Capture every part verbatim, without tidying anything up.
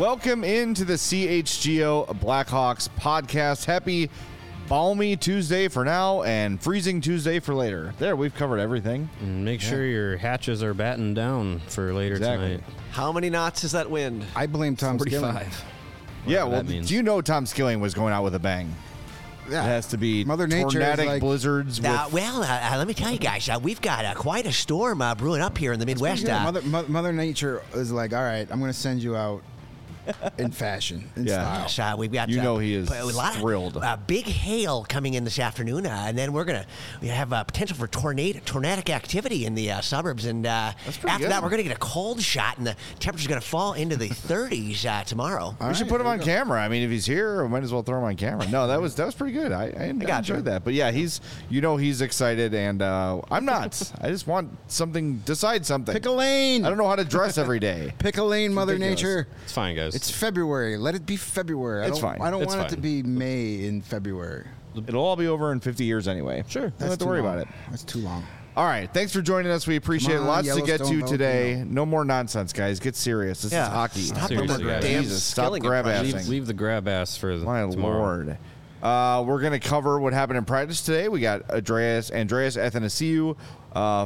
Welcome into the C H G O Blackhawks podcast. Happy balmy Tuesday for now and freezing Tuesday for later. There, we've covered everything. And make sure yeah. your hatches are battened down for later exactly. tonight. How many knots is that wind? I blame Tom Skilling. Yeah, well, do you know Tom Skilling was going out with a bang? Yeah. It has to be Mother Nature tornadic like, blizzards. Uh, with well, uh, let me tell you guys, uh, we've got uh, quite a storm uh, brewing up here in the Midwest. Uh, Mother, Mother, Mother Nature is like, all right, I'm going to send you out in fashion, in yeah. style. Uh, we've got, you uh, know he is a lot thrilled. Of, uh, big hail coming in this afternoon, uh, and then we're gonna we have uh, potential for tornado, tornadic activity in the uh, suburbs. And uh, after good. that, we're gonna get a cold shot, and the temperature's gonna fall into the thirties uh, tomorrow. All we right, should put him on camera. I mean, if he's here, we might as well throw him on camera. No, that was that was pretty good. I, I, I got enjoyed you. that. But yeah, he's you know he's excited, and uh, I'm not. I just want something. Decide something. Pick a lane. I don't know how to dress every day. Pick a lane, Mother ridiculous. Nature. It's fine, guys. It's February. Let it be February. It's I don't, fine. I don't It's want it fine. to be May in February. It'll all be over in fifty years anyway. Sure. Don't That's have to too worry long. about it. That's too long. All right. Thanks for joining us. We appreciate Come it. on, Lots to get to Yellowstone today. volcano. No more nonsense, guys. Get serious. This Yeah. is hockey. Stop Seriously, with guys. the damn Jesus, stop Skilling grab impression. assing. leave, leave the grab ass for the, My tomorrow. lord. Uh, we're going to cover what happened in practice today. We got Andreas Andreas Athanasiou uh,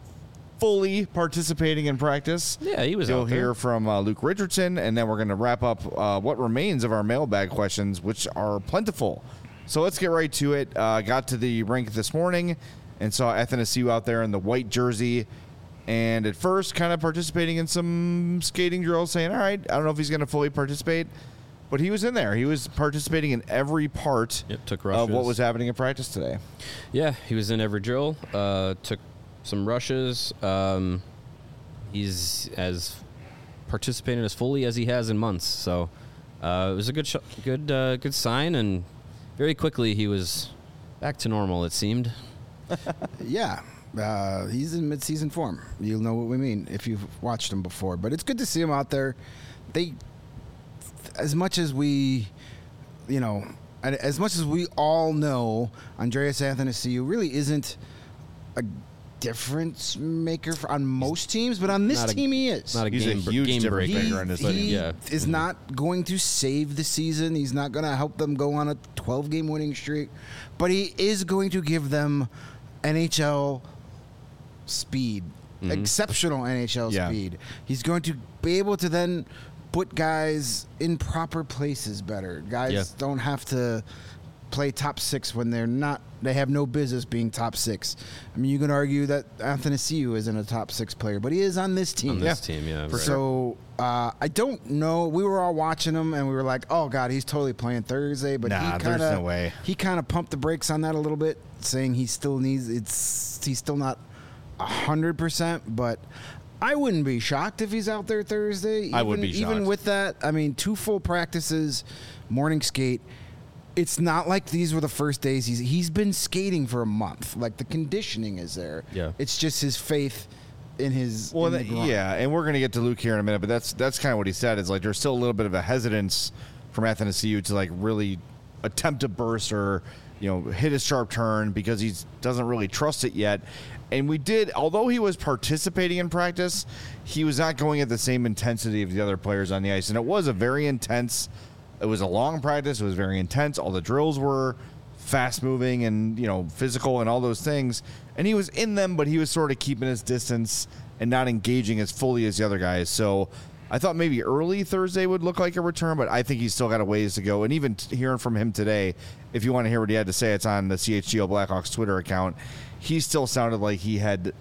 fully participating in practice. Yeah, he was You'll out there. hear from uh, Luke Richardson, and then we're going to wrap up uh, what remains of our mailbag questions, which are plentiful. So let's get right to it. Uh, got to the rink this morning and saw Athanasiou out there in the white jersey. And at first, kind of participating in some skating drills, saying, all right, I don't know if he's going to fully participate. But he was in there. He was participating in every part Yep, took of what rushes. was happening in practice today. Yeah, he was in every drill. Uh, took some rushes. Um, he's as participated as fully as he has in months. So uh, it was a good, sh- good, uh, good sign. And very quickly he was back to normal. It seemed. Yeah. Uh, he's in mid-season form. You'll know what we mean if you've watched him before. But it's good to see him out there. They, as much as we, you know, and as much as we all know, Andreas Athanasiou really isn't a difference maker for, on most teams, but on this Not a- team he is. Not a He's game, a br- huge game difference breaker. maker in this but league. he yeah. is not going to save the season. He's not going to help them go on a twelve-game winning streak, but he is going to give them N H L speed, Mm-hmm. exceptional N H L Yeah. speed. He's going to be able to then put guys in proper places better. Guys Yeah. don't have to play top six when they're not. They have no business being top six. I mean, you can argue that Athanasiou isn't a top six player, but he is on this team. On this Yeah. team, yeah. For right. So uh, I don't know. We were all watching him, and we were like, "Oh God, he's totally playing Thursday." But Nah, he there's kinda, no way. He kind of pumped the brakes on that a little bit, saying he still needs. It's he's still not a hundred percent, but I wouldn't be shocked if he's out there Thursday. Even, I would be even shocked. with that. I mean, two full practices, morning skate. It's not like these were the first days. He's he's been skating for a month. Like the conditioning is there. Yeah. It's just his faith in his. Well, in the that- groin. yeah, and we're going to get to Luke here in a minute, but that's that's kind of what he said is like there's still a little bit of a hesitance from Athanasiou to like really attempt a burst or you know hit a sharp turn because he doesn't really trust it yet. And we did, although he was participating in practice, he was not going at the same intensity of the other players on the ice, and it was a very intense. It was a long practice. It was very intense. All the drills were fast moving and, you know, physical and all those things. And he was in them, but he was sort of keeping his distance and not engaging as fully as the other guys. So I thought maybe early Thursday would look like a return, but I think he's still got a ways to go. And even t- hearing from him today, if you want to hear what he had to say, it's on the C H G O Blackhawks Twitter account. He still sounded like he had,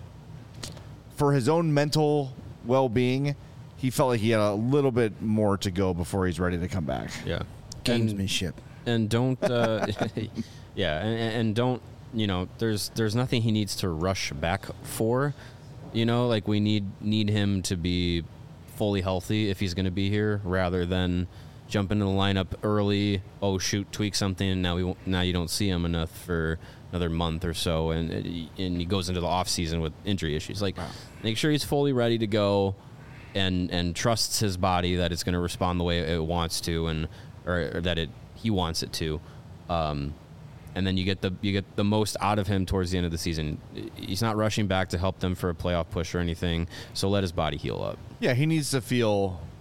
for his own mental well-being, he felt like he had a little bit more to go before he's ready to come back. Yeah. And, Gamesmanship. and don't, uh, yeah, and, and don't, you know, there's there's nothing he needs to rush back for, you know, like we need need him to be fully healthy if he's going to be here, rather than jump into the lineup early. Oh shoot, tweak something, and now we won't, now you don't see him enough for another month or so, and and he goes into the off season with injury issues. Like, make sure he's fully ready to go. And, and trusts his body that it's going to respond the way it wants to, and or, or that it he wants it to, um, and then you get the you get the most out of him towards the end of the season. He's not rushing back to help them for a playoff push or anything, so let his body heal up. Yeah, he needs to feel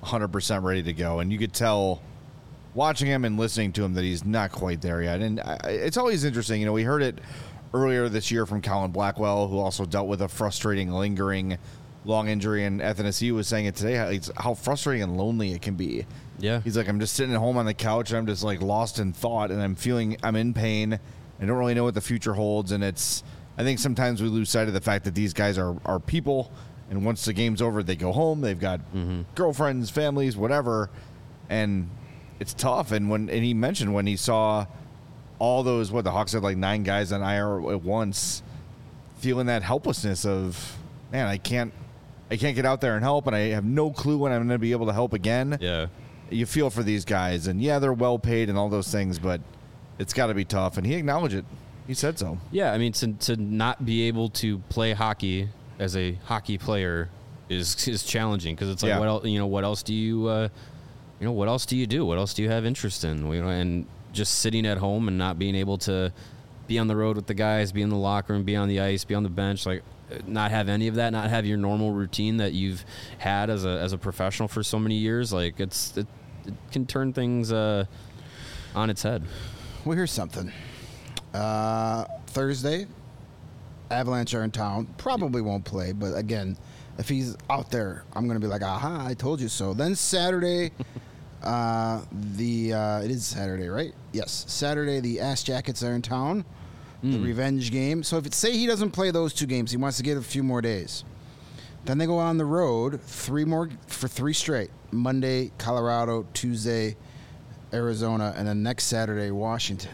one hundred percent ready to go. And you could tell watching him and listening to him that he's not quite there yet. And I, it's always interesting. You know, we heard it earlier this year from Colin Blackwell, who also dealt with a frustrating, lingering long injury. And Athanasiou was saying it today, how, it's how frustrating and lonely it can be. Yeah. He's like, I'm just sitting at home on the couch and I'm just like lost in thought and I'm feeling I'm in pain. I don't really know what the future holds. And it's, I think sometimes we lose sight of the fact that these guys are, are people. And once the game's over, they go home. They've got mm-hmm. girlfriends, families, whatever. And it's tough. And when, and he mentioned when he saw all those, what the Hawks had like nine guys on I R at once, feeling that helplessness of, man, I can't, I can't get out there and help. And I have no clue when I'm going to be able to help again. Yeah. You feel for these guys, and yeah, they're well paid and all those things, but it's got to be tough. And he acknowledged it. He said so. Yeah, I mean, to to not be able to play hockey as a hockey player is is challenging because it's like, Yeah. what else? You know, what else do you, uh, you know, what else do you do? What else do you have interest in? You know, and just sitting at home and not being able to be on the road with the guys, be in the locker room, be on the ice, be on the bench, like. Not have any of that, not have your normal routine that you've had as a as a professional for so many years, like it's it, it can turn things uh, on its head. Well, here's something. Uh, Thursday, Avalanche are in town. Probably won't play, but again, if he's out there, I'm going to be like, aha, I told you so. Then Saturday, uh, the uh, it is Saturday, right? Yes, Saturday, the Ass Jackets are in town. The Mm. revenge game. So if it say he doesn't play those two games, he wants to get a few more days. Then they go on the road three more for three straight. Monday, Colorado, Tuesday, Arizona, and then next Saturday, Washington.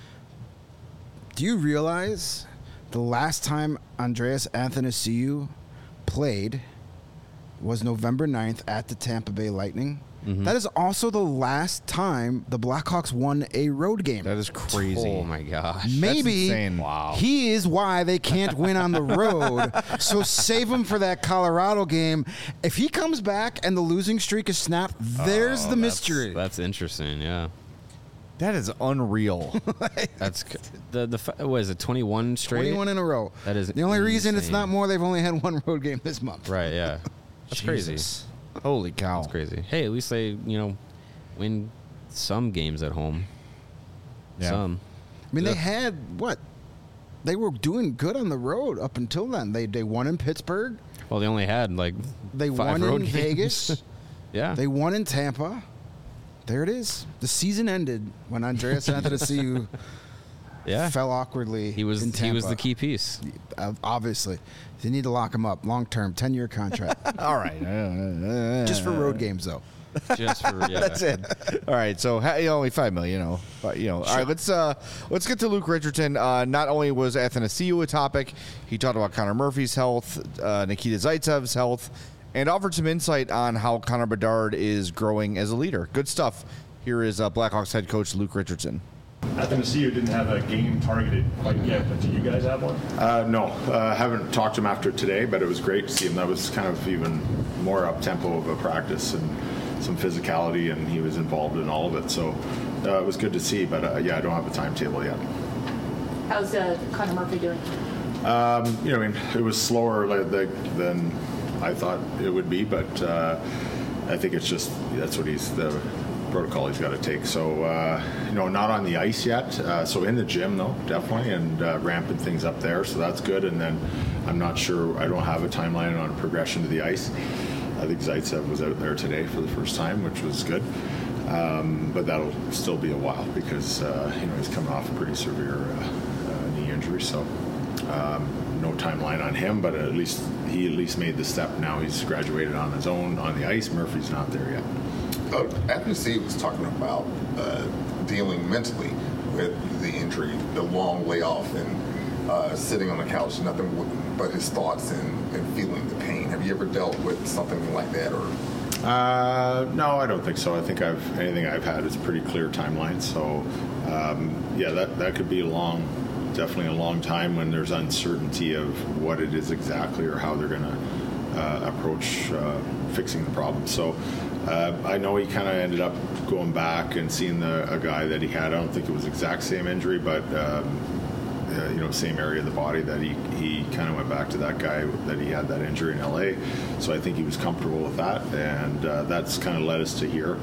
Do you realize the last time Andreas Athanasiou played was November ninth at the Tampa Bay Lightning? Mm-hmm. That is also the last time the Blackhawks won a road game. That is crazy. Oh my gosh! Maybe That's insane. Wow. he is why they can't win on the road. So save him for that Colorado game. If he comes back and the losing streak is snapped, there's Oh, the that's- mystery. That's interesting. Yeah. That is unreal. That's c- the the fa- what is it? twenty-one straight. twenty-one in a row. That is the only reason it's insane. not more. They've only had one road game this month. Right. Yeah. That's crazy. Jesus. Holy cow. That's crazy. Hey, at least they you know win some games at home. Yeah. Some. I mean, Yeah. they had what? They were doing good on the road up until then. They they won in Pittsburgh. Well, they only had like They five won road in games. Vegas. Yeah. They won in Tampa. There it is. The season ended when Andreas Athanasiou yeah. fell awkwardly. He was in he was Tampa. the key piece. Uh, Obviously, they need to lock him up long term, ten year contract, All right. just for road games though. Just for yeah. That's it. All right, so ha- you know, only five million, you know, but you know. All right, let's uh, let's get to Luke Richardson. Uh, not only was Athanasiou a topic, he talked about Connor Murphy's health, uh, Nikita Zaitsev's health, and offered some insight on how Connor Bedard is growing as a leader. Good stuff. Here is uh, Blackhawks head coach Luke Richardson. Athanasiou didn't have a game targeted quite yet, but do you guys have one? Uh, no, uh, haven't talked to him after today, but it was great to see him. That was kind of even more up tempo of a practice and some physicality, and he was involved in all of it. So uh, it was good to see. But uh, yeah, I don't have a timetable yet. How's uh, Connor Murphy doing? Um, you know, I mean, it was slower like, like, than I thought it would be, but uh, I think it's just that's what he's the protocol he's got to take. So uh, you know, not on the ice yet. Uh, so in the gym though, definitely, and uh, ramping things up there. So that's good. And then I'm not sure. I don't have a timeline on progression to the ice. I think Zaitsev was out there today for the first time, which was good. Um, but that'll still be a while because uh, you know he's coming off a pretty severe uh, uh, knee injury. So um, no timeline on him, but at least he at least made the step. Now he's graduated on his own on the ice. Murphy's not there yet. Uh, Athanasiou was talking about uh, dealing mentally with the injury, the long layoff, and uh, sitting on the couch, nothing but his thoughts and, and feeling the pain. Have you ever dealt with something like that, or? Uh, no, I don't think so. I think I've anything I've had is a pretty clear timeline. So, um, yeah, that that could be a long, definitely a long time when there's uncertainty of what it is exactly or how they're going to uh, approach uh, fixing the problem. So, uh, I know he kind of ended up going back and seeing the a guy that he had. I don't think it was exact same injury, but um, uh, you know, same area of the body that he, he kind of went back to that guy that he had that injury in L A. So I think he was comfortable with that, and uh, that's kind of led us to here.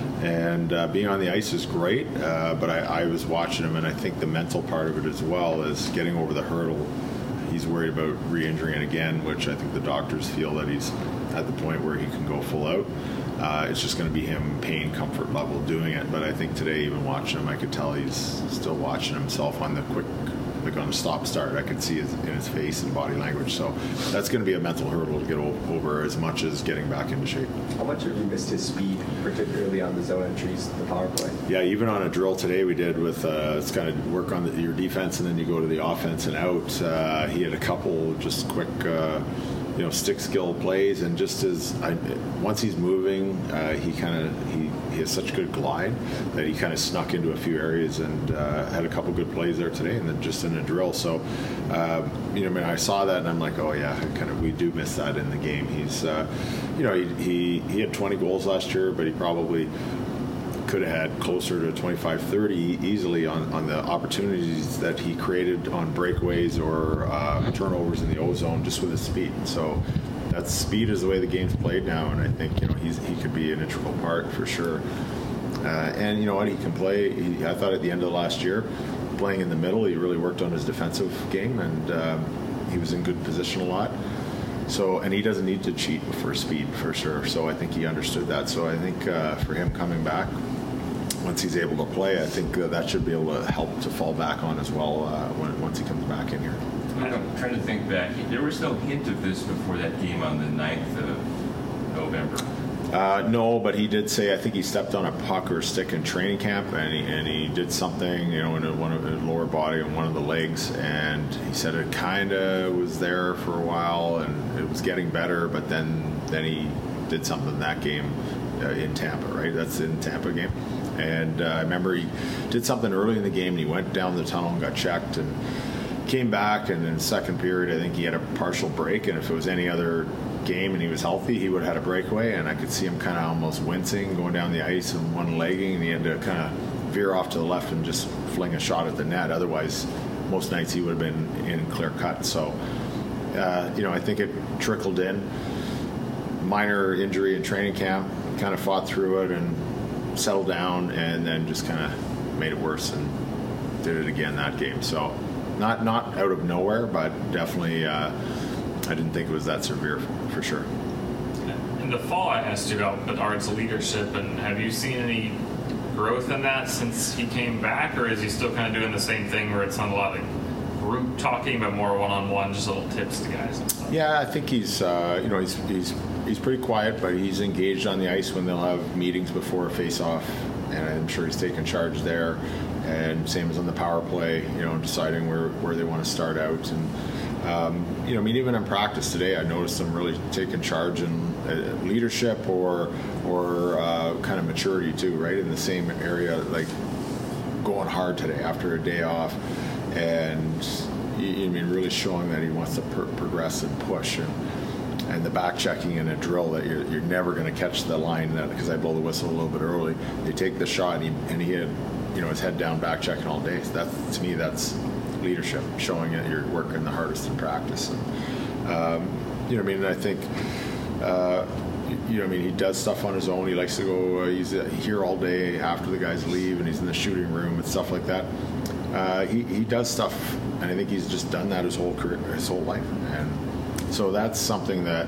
And uh, being on the ice is great, uh, but I, I was watching him, and I think the mental part of it as well is getting over the hurdle. He's worried about re-injuring again, which I think the doctors feel that he's at the point where he can go full out. Uh, it's just going to be him pain comfort level doing it. But I think today, even watching him, I could tell he's still watching himself on the quick, like on a stop start. I could see it in his face and body language. So that's going to be a mental hurdle to get o- over as much as getting back into shape. How much have you missed his speed, particularly on the zone entries, the power play? Yeah, even on a drill today we did with uh, it's kind of work on the, your defense and then you go to the offense and out. Uh, he had a couple just quick. Uh, you know, stick skill plays, and just as I, once he's moving, uh, he kind of he, he has such good glide that he kind of snuck into a few areas and uh, had a couple good plays there today, and then just in a drill. So, uh, you know, I mean, I saw that and I'm like, oh yeah, kind of we do miss that in the game. He's, uh, you know, he, he he had twenty goals last year, but he probably could have had closer to twenty-five, thirty easily on, on the opportunities that he created on breakaways or uh, turnovers in the O-zone just with his speed. So that speed is the way the game's played now, and I think, you know, he's he could be an integral part for sure. Uh, and you know what, he can play. He, I thought at the end of last year, playing in the middle, he really worked on his defensive game, and um, he was in good position a lot. So, and he doesn't need to cheat for speed for sure. So I think he understood that. So I think uh, for him coming back, once he's able to play, I think uh, that should be able to help to fall back on as well uh, when, once he comes back in here. I'm trying to think back. There was no hint of this before that game on the ninth of November. Uh, no, but he did say, I think he stepped on a puck or stick in training camp, and he, and he did something, you know, in a, one of his lower body and one of the legs, and he said it kind of was there for a while, and it was getting better, but then then he did something in that game uh, in Tampa, right? That's in Tampa game. And uh, I remember he did something early in the game, and he went down the tunnel and got checked and came back, and in the second period, I think he had a partial break, and if it was any other game and he was healthy, he would have had a breakaway, and I could see him kind of almost wincing, going down the ice and one-legging, and he had to kind of veer off to the left and just fling a shot at the net. Otherwise, most nights he would have been in clear cut. So, uh, you know, I think it trickled in. Minor injury in training camp, kind of fought through it and settled down, and then just kind of made it worse and did it again that game. So not not out of nowhere, but definitely uh, I didn't think it was that severe for, for sure. In the fall, I asked you about Bedard's leadership, and have you seen any growth in that since he came back, or is he still kind of doing the same thing where it's not a lot like group talking, but more one-on-one, just little tips to guys and stuff? Yeah, I think he's uh, you know he's he's he's pretty quiet, but he's engaged on the ice when they'll have meetings before a face-off, and I'm sure he's taking charge there. And same as on the power play, you know, deciding where, where they want to start out. And, um, you know, I mean, even in practice today, I noticed him really taking charge in uh, leadership or or uh, kind of maturity too, right? In the same area, like going hard today after a day off. And, you, I mean, really showing that he wants to pr- progress and push. And, and the back checking in a drill that you're, you're never going to catch the line, because I blow the whistle a little bit early. They take the shot, and he, and he had, you know, his head down, back checking all day. So that, to me, that's leadership, showing that you're working the hardest in practice. And, um, you know, I mean, I think, uh, you know, I mean, he does stuff on his own. He likes to go. Uh, he's uh, here all day after the guys leave, and he's in the shooting room and stuff like that. Uh, he he does stuff, and I think he's just done that his whole career, his whole life, and so that's something that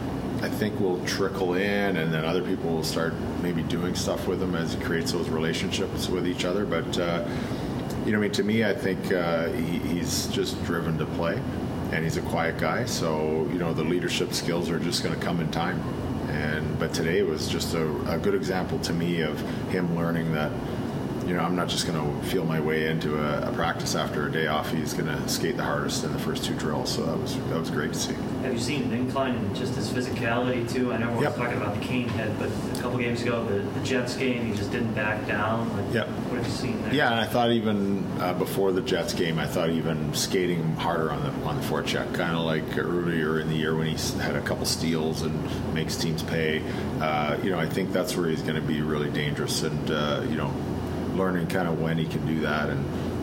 I think will trickle in, and then other people will start maybe doing stuff with him as he creates those relationships with each other. But, uh, you know, I mean, to me, I think uh, he, he's just driven to play, and he's a quiet guy. So, you know, the leadership skills are just going to come in time. And but today was just a, a good example to me of him learning that, you know, I'm not just going to feel my way into a, a practice after a day off. He's going to skate the hardest in the first two drills. So that was that was great to see. Have you seen an incline in just his physicality too? I know we're yep. talking about the Kane head, but a couple games ago, the, the Jets game, he just didn't back down. Like, yep. What have you seen there? Yeah, and I thought even uh, before the Jets game, I thought even skating harder on the on the forecheck, kind of like earlier in the year when he had a couple steals and makes teams pay. Uh, you know, I think that's where he's going to be really dangerous, and uh, you know, learning kind of when he can do that and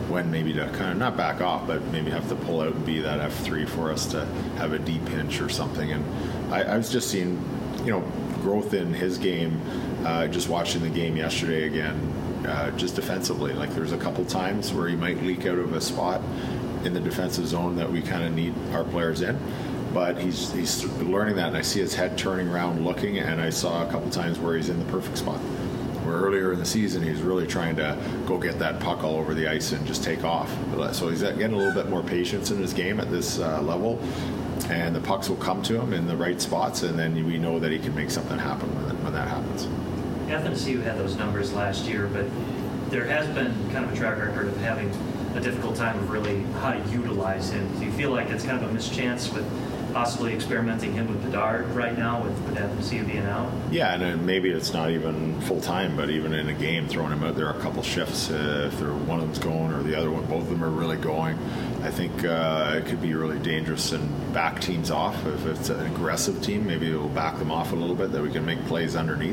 when maybe to kind of not back off, but maybe have to pull out and be that F three for us to have a deep pinch or something. And I, I was just seeing, you know, growth in his game, uh, just watching the game yesterday again, uh, just defensively. Like there's a couple times where he might leak out of a spot in the defensive zone that we kind of need our players in. But he's he's learning that, and I see his head turning around looking, and I saw a couple times where he's in the perfect spot. Where earlier in the season, he was really trying to go get that puck all over the ice and just take off. So he's getting a little bit more patience in his game at this uh, level, and the pucks will come to him in the right spots, and then we know that he can make something happen when, when that happens. Athanasiou had those numbers last year, but there has been kind of a track record of having a difficult time of really how to utilize him. Do you feel like it's kind of a mischance with possibly experimenting him with Bedard right now with, with Athanasiou being out? Yeah, and then maybe it's not even full time, but even in a game, throwing him out there a couple shifts, uh, if they're, one of them's going or the other one, both of them are really going, I think uh, it could be really dangerous and back teams off. If it's an aggressive team, maybe it'll back them off a little bit, that we can make plays underneath.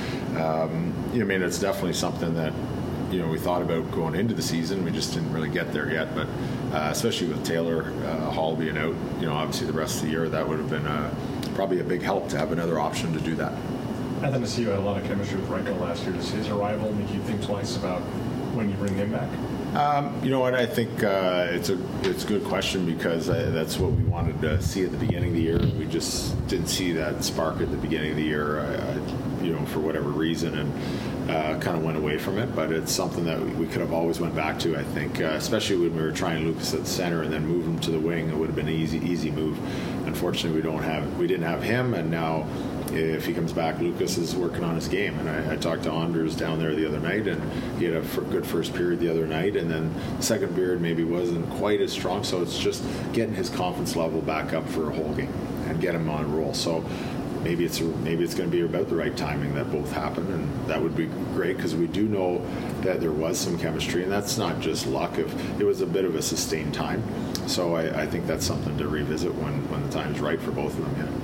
Um, I mean, it's definitely something that, you know, we thought about going into the season. We just didn't really get there yet. But uh, especially with Taylor uh, Hall being out, you know, obviously the rest of the year, that would have been uh, probably a big help to have another option to do that. Athanasiou had a lot of chemistry with Reichel last year. Does his arrival make you think twice about when you bring him back? Um, you know what? I think uh, it's a it's a good question, because uh, that's what we wanted to see at the beginning of the year. We just didn't see that spark at the beginning of the year, uh, you know, for whatever reason, and uh, kind of went away from it. But it's something that we could have always went back to. I think, uh, especially when we were trying Lucas at the center and then move him to the wing, it would have been an easy easy move. Unfortunately, we don't have we didn't have him, and now, if he comes back, Lucas is working on his game. And I, I talked to Anders down there the other night, and he had a f- good first period the other night, and then the second period maybe wasn't quite as strong. So it's just getting his confidence level back up for a whole game and get him on a roll. So maybe it's maybe it's going to be about the right timing that both happen, and that would be great, because we do know that there was some chemistry, and that's not just luck. If it was a bit of a sustained time, so I, I think that's something to revisit when when the time's right for both of them. Yeah.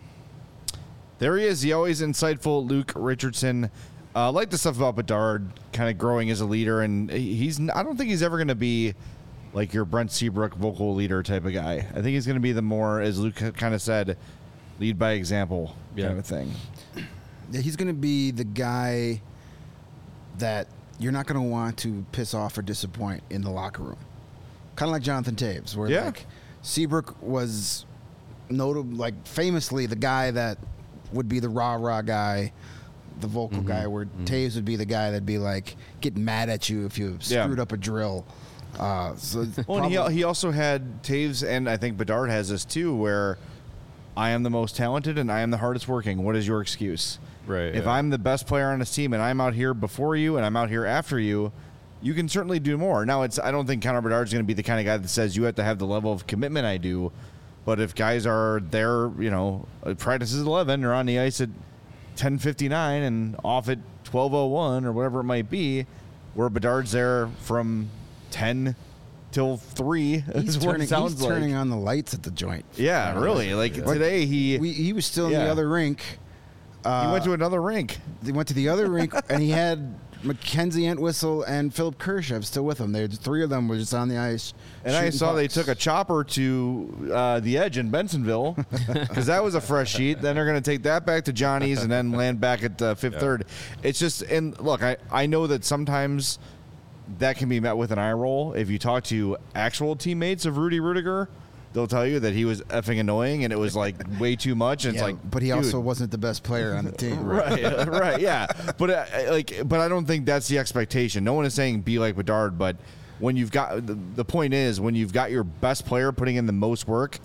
There he is, the always insightful Luke Richardson. I uh, like the stuff about Bedard kind of growing as a leader, and he's I don't think he's ever going to be like your Brent Seabrook vocal leader type of guy. I think he's going to be the more, as Luke kind of said, lead by example yeah. kind of thing. Yeah, he's going to be the guy that you're not going to want to piss off or disappoint in the locker room. Kind of like Jonathan Toews, where yeah. like Seabrook was notable, like famously the guy that would be the rah-rah guy, the vocal mm-hmm. guy, where mm-hmm. Toews would be the guy that'd be like getting mad at you if you screwed yeah. up a drill. Uh, so well, and he, he also had Toews, and I think Bedard has this too, where I am the most talented and I am the hardest working. What is your excuse? Right. If yeah. I'm the best player on this team and I'm out here before you and I'm out here after you, you can certainly do more. Now, it's I don't think Connor Bedard's going to be the kind of guy that says you have to have the level of commitment I do. But if guys are there, you know, practice is eleven, or on the ice at ten fifty-nine and off at twelve oh one or whatever it might be, where Bedard's there from ten till three. He's, turning, he's like. turning on the lights at the joint. Yeah, really. Like yeah. today he... We, he was still in yeah. the other rink. Uh, he went to another rink. He went to the other rink, and he had Mackenzie Entwistle and Philip Kershev still with him. They three of them were just on the ice. And I saw pucks. they took a chopper to uh, the Edge in Bensonville, because that was a fresh sheet. Then they're going to take that back to Johnny's and then land back at uh, Fifth yeah. Third. It's just, and look, I, I know that sometimes that can be met with an eye roll. If you talk to actual teammates of Rudy Rudiger, they'll tell you that he was effing annoying and it was like way too much. And yeah, it's like, but he dude. also wasn't the best player on the team, right? right, right, yeah. But uh, like, but I don't think that's the expectation. No one is saying be like Bedard, but when you've got the, the point is when you've got your best player putting in the most work,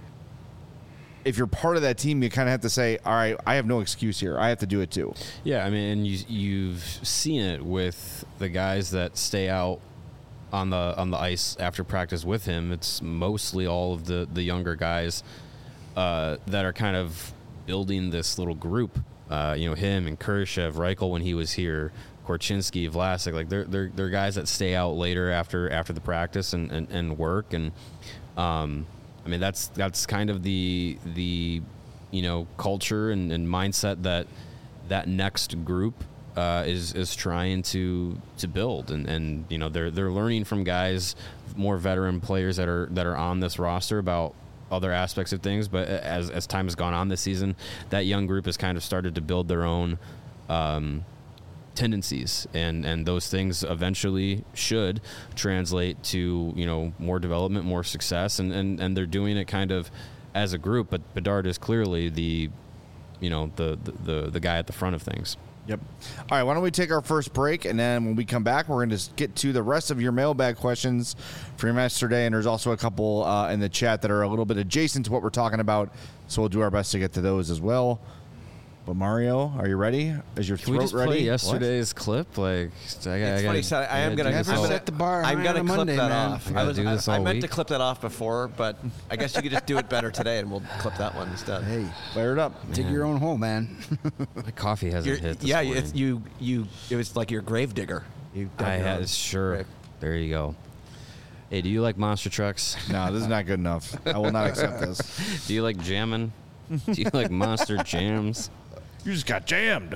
if you're part of that team, you kind of have to say, all right, I have no excuse here. I have to do it too. Yeah, I mean, and you, you've seen it with the guys that stay out on the on the ice after practice with him. It's mostly all of the, the younger guys uh, that are kind of building this little group. Uh, you know, him and Kershev, Reichel when he was here, Korchinski, Vlasic. Like they're they're they're guys that stay out later after after the practice and, and, and work. And um, I mean that's that's kind of the the you know culture and, and mindset that that next group uh, is is trying to to build, and, and you know they're they're learning from guys, more veteran players that are that are on this roster about other aspects of things. But as as time has gone on this season, that young group has kind of started to build their own um, tendencies, and and those things eventually should translate to, you know, more development, more success, and and, and they're doing it kind of as a group. But Bedard is clearly the you know the, the the guy at the front of things. Yep. All right, why don't we take our first break, and then when we come back, we're going to get to the rest of your mailbag questions for your match today, and there's also a couple uh, in the chat that are a little bit adjacent to what we're talking about, so we'll do our best to get to those as well. But Mario, are you ready? Is your Can throat we just ready? play yesterday's what? clip? Like, I, I, it's I funny. gotta, So I am gonna. do I'm this all- gonna set the bar I'm high gonna on a clip Monday, that man. off. I I gotta was. do this I, I all meant week. to clip that off before, but I guess you could just do it better today, and we'll clip that one instead. Hey, fire it up. Dig your own hole, man. My coffee hasn't You're, hit this yeah, morning. it's, you. You. It was like your grave digger. You. dug I your own had sure. grave. There you go. Hey, do you like monster trucks? No, this is not good enough. I will not accept this. Do you like jamming? Do you like monster jams? You just got jammed.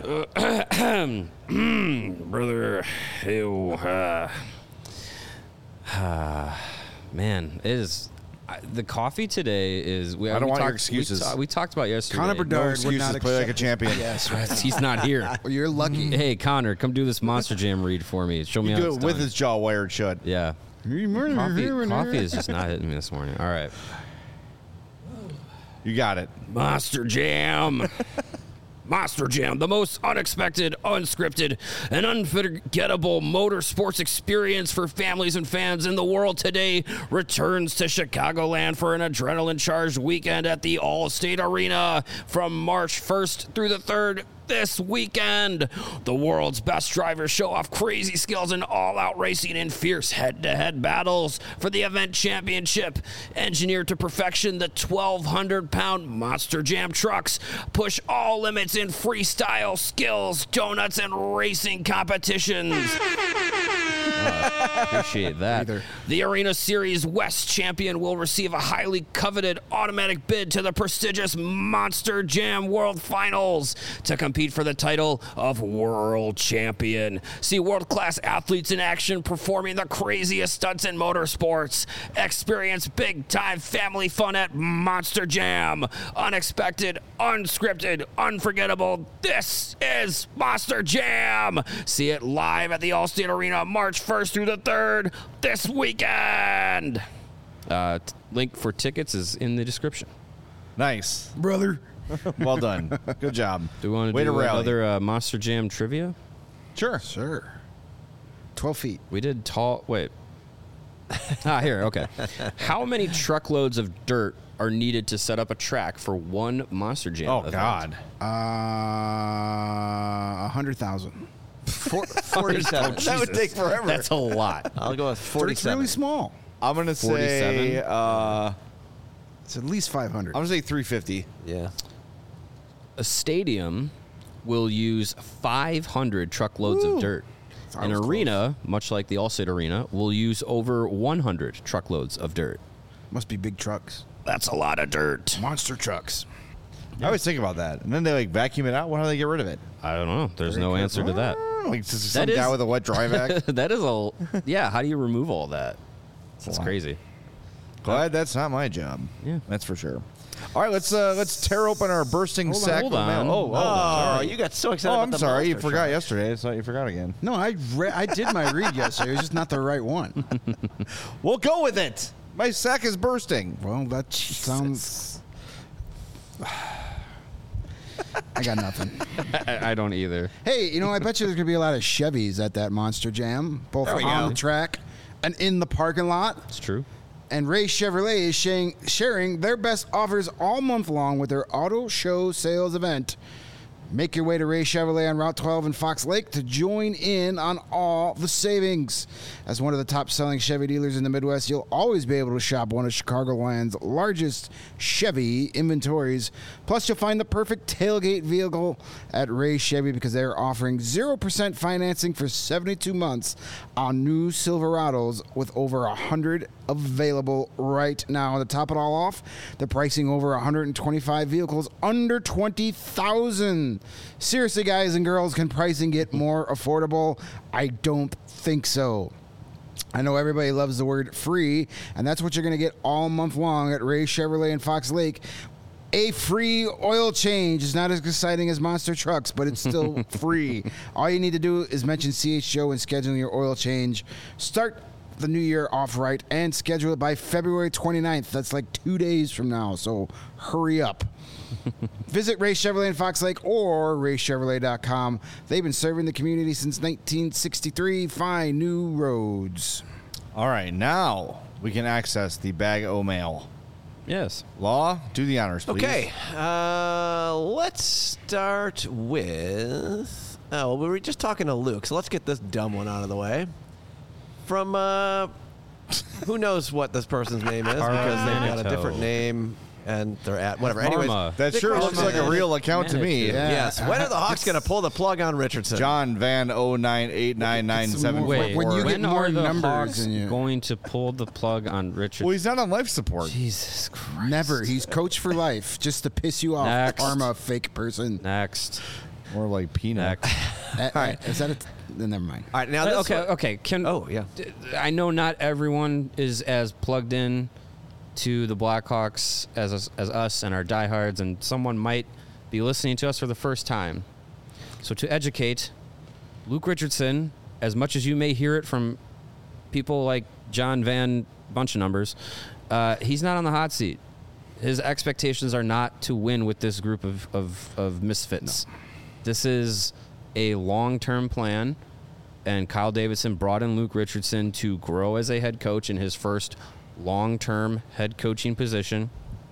Brother, ew, uh, uh, man, it is. I, the coffee today is. We, I don't we want your talked- excuses. We, ta- we talked about yesterday. Connor No Bedard would excuses. not Play like a accept champion. Yes, right. He's not here. Well, you're lucky. Hey, Connor, come do this monster jam read for me. Show me You how do it's it with done. his jaw wired shut. Yeah. Coffee, coffee is just not hitting me this morning. All right. You got it. Monster Jam. Monster Jam, the most unexpected, unscripted, and unforgettable motorsports experience for families and fans in the world today, returns to Chicagoland for an adrenaline-charged weekend at the Allstate Arena from March first through the third. This weekend, the world's best drivers show off crazy skills in all-out racing and fierce head-to-head battles for the event championship. Engineered to perfection, the twelve hundred pound Monster Jam trucks push all limits in freestyle skills, donuts, and racing competitions. Uh, appreciate that. Either. The Arena Series West champion will receive a highly coveted automatic bid to the prestigious Monster Jam World Finals to compete for the title of World Champion. See world-class athletes in action performing the craziest stunts in motorsports. Experience big-time family fun at Monster Jam. Unexpected, unscripted, unforgettable. This is Monster Jam. See it live at the Allstate Arena March first through the third this weekend. Uh, t- link for tickets is in the description. Nice. brother. Well done. Good job. Do we want to Way do to rally. another uh, Monster Jam trivia? Sure. Sure. Twelve feet. We did tall. Wait. ah, here. Okay. How many truckloads of dirt are needed to set up a track for one Monster Jam Oh, event? God. Uh, a hundred thousand. Four, Forty-seven. That would take forever. That's a lot. I'll go with It's forty-seven. really small. I'm going to say, forty-seven? uh, It's at least five hundred. I'm going to say three fifty. Yeah. A stadium will use five hundred truckloads Woo. of dirt. I An was arena, much like the Allstate Arena, will use over one hundred truckloads of dirt. Must be big trucks. That's a lot of dirt. Monster trucks. I always think about that. And then they like vacuum it out. Why do they get rid of it? I don't know. There's no answer to that. Like just some That guy is- with a wet dry vac. that is a yeah. How do you remove all that? That's lot. crazy. Glad that's not my job. Yeah. That's for sure. All right, let's uh, let's tear open our bursting Hold on, sack hold of mail. on. Oh, oh, Oh, sorry. you got so excited Oh, about I'm the sorry. You monster forgot truck. yesterday. I thought you forgot again. No, I re- I did my read yesterday. It was just not the right one. We'll go with it. My sack is bursting. Well, that sounds. I got nothing. I, I don't either. Hey, you know, I bet you there's gonna be a lot of Chevys at that Monster Jam, both There we on go. the track and in the parking lot. It's true. And Ray Chevrolet is sharing, sharing their best offers all month long with their auto show sales event. Make your way to Ray Chevrolet on Route twelve in Fox Lake to join in on all the savings. As one of the top-selling Chevy dealers in the Midwest, you'll always be able to shop one of Chicagoland's largest Chevy inventories. Plus, you'll find the perfect tailgate vehicle at Ray Chevy because they're offering zero percent financing for seventy-two months on new Silverados with over one hundred available right now. To top it all off, they're pricing over one hundred twenty-five vehicles under twenty thousand dollars. season. Seriously, guys and girls, can pricing get more affordable? I don't think so. I know everybody loves the word free, and that's what you're going to get all month long at Ray Chevrolet in Fox Lake. A free oil change is not as exciting as monster trucks, but it's still free. All you need to do is mention C H G O when scheduling your oil change. Start the new year off right and schedule it by February twenty-ninth. That's like two days from now, so hurry up. Visit Ray Chevrolet in Fox Lake or ray chevrolet dot com. They've been serving the community since nineteen sixty-three. Find new roads. All right, now we can access the bag o' mail. Yes. Law, do the honors, please. Okay, uh, let's start with. Oh, well, we were just talking to Luke, so let's get this dumb one out of the way. From, uh, who knows what this person's name is because they've got a different name and they're at whatever. Anyways, that sure looks like a real account to me. Yeah. Yes. When are the Hawks going to pull the plug on Richardson? John Van oh nine eight nine nine seven. Wait, when, when, when are the numbers Hawks in you- going to pull the plug on Richardson? Well, he's not on life support. Jesus Christ. Never. He's coach for life, just to piss you off. Next. Karma, fake person. Next. More like peanut. Next. Uh, All right. Is that it? Then never mind. All right, now this okay, one- okay. Can Oh, yeah. I know not everyone is as plugged in to the Blackhawks as us, as us and our diehards, and someone might be listening to us for the first time. So to educate, Luke Richardson, as much as you may hear it from people like John Van bunch of numbers, uh, he's not on the hot seat. His expectations are not to win with this group of, of, of misfits. No. This is a long-term plan, and Kyle Davidson brought in Luke Richardson to grow as a head coach in his first long-term head coaching position.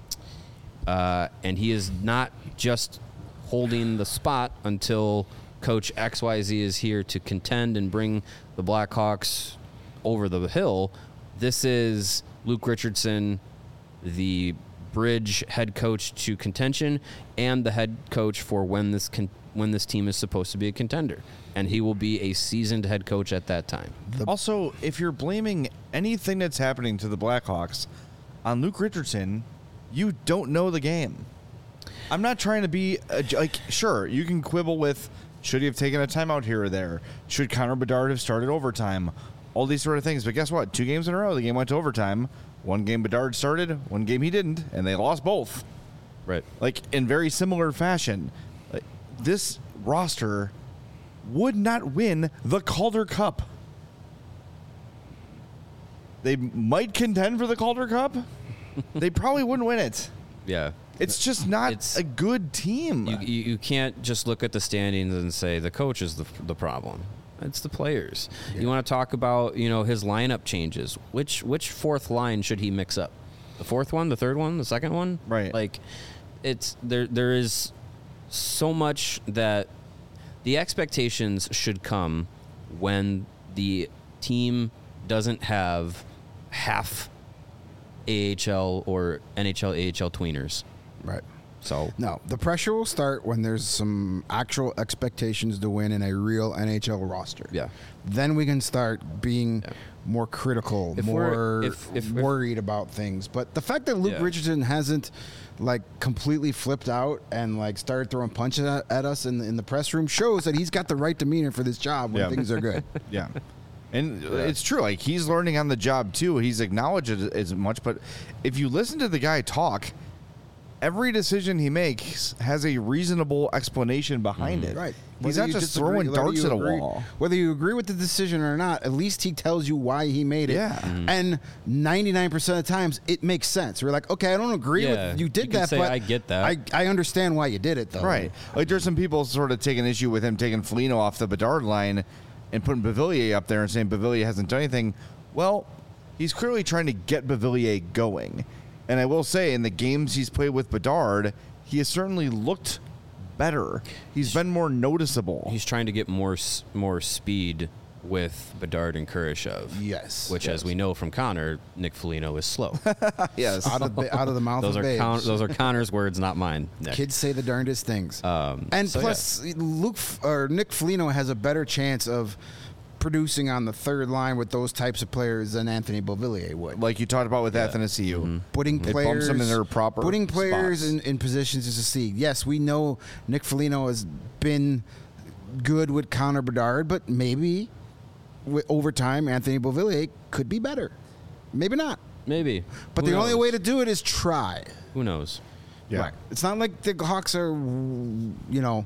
Uh, and he is not just holding the spot until Coach X Y Z is here to contend and bring the Blackhawks over the hill. This is Luke Richardson, the bridge head coach to contention, and the head coach for when this con- when this team is supposed to be a contender. And he will be a seasoned head coach at that time. Also, if you're blaming anything that's happening to the Blackhawks on Luke Richardson, you don't know the game. I'm not trying to be a, like, sure, you can quibble with should he have taken a timeout here or there? Should Connor Bedard have started overtime? All these sort of things. But guess what? Two games in a row, the game went to overtime. One game Bedard started, one game he didn't, and they lost both. Right. Like, in very similar fashion. Like, this roster would not win the Calder Cup. They might contend for the Calder Cup. They probably wouldn't win it. Yeah. It's just not It's- a good team. You, you, you can't just look at the standings and say the coach is the, the problem. It's the players. You want to talk about, you know, his lineup changes. Which which fourth line should he mix up? The fourth one, the third one, the second one? Right. Like, it's there. There is so much that the expectations should come when the team doesn't have half A H L or N H L, A H L tweeners. Right. So No, the pressure will start when there's some actual expectations to win in a real N H L roster. Yeah. Then we can start being more critical, If we're- more if- if- if- worried about things. But the fact that Luke Yeah. Richardson hasn't like completely flipped out and like started throwing punches at, at us in the, in the press room shows that he's got the right demeanor for this job when Yeah. things are good. Yeah. And it's true. Like, he's learning on the job, too. He's acknowledged it as much. But if you listen to the guy talk, every decision he makes has a reasonable explanation behind it. Right. He's Whether not you just disagree- throwing whether darts you at a agree- wall. Whether you agree with the decision or not, at least he tells you why he made it. Yeah. Mm-hmm. And ninety-nine percent of the times, it makes sense. We're like, okay, I don't agree Yeah. with you did You can that, say, but "I get that." I, I understand why you did it, though. Right. Like, there's some people sort of taking issue with him taking Foligno off the Bedard line and putting Beauvillier up there and saying Beauvillier hasn't done anything. Well, he's clearly trying to get Beauvillier going. And I will say, in the games he's played with Bedard, he has certainly looked better. He's been more noticeable. he's trying to get more s- more speed with Bedard and Kurashev. Yes. Which, yes. as we know from Connor, Nick Foligno is slow. yes. Out of, the, out of the mouth those of are babes. Con- those are Connor's words, not mine. Nick. Kids say the darndest things. Um, and so, plus, Luke F- or Nick Foligno has a better chance of producing on the third line with those types of players than Anthony Beauvillier would. Like you talked about with yeah. Athanasiou. Mm-hmm. Putting mm-hmm. players, it bumps them in their proper putting players spots. in, in positions to succeed. Yes, we know Nick Foligno has been good with Connor Bedard, but maybe w- over time Anthony Beauvillier could be better. Maybe not. Maybe. But Who the knows? only way to do it is try. Who knows? Yeah. Right. It's not like the Hawks are, you know,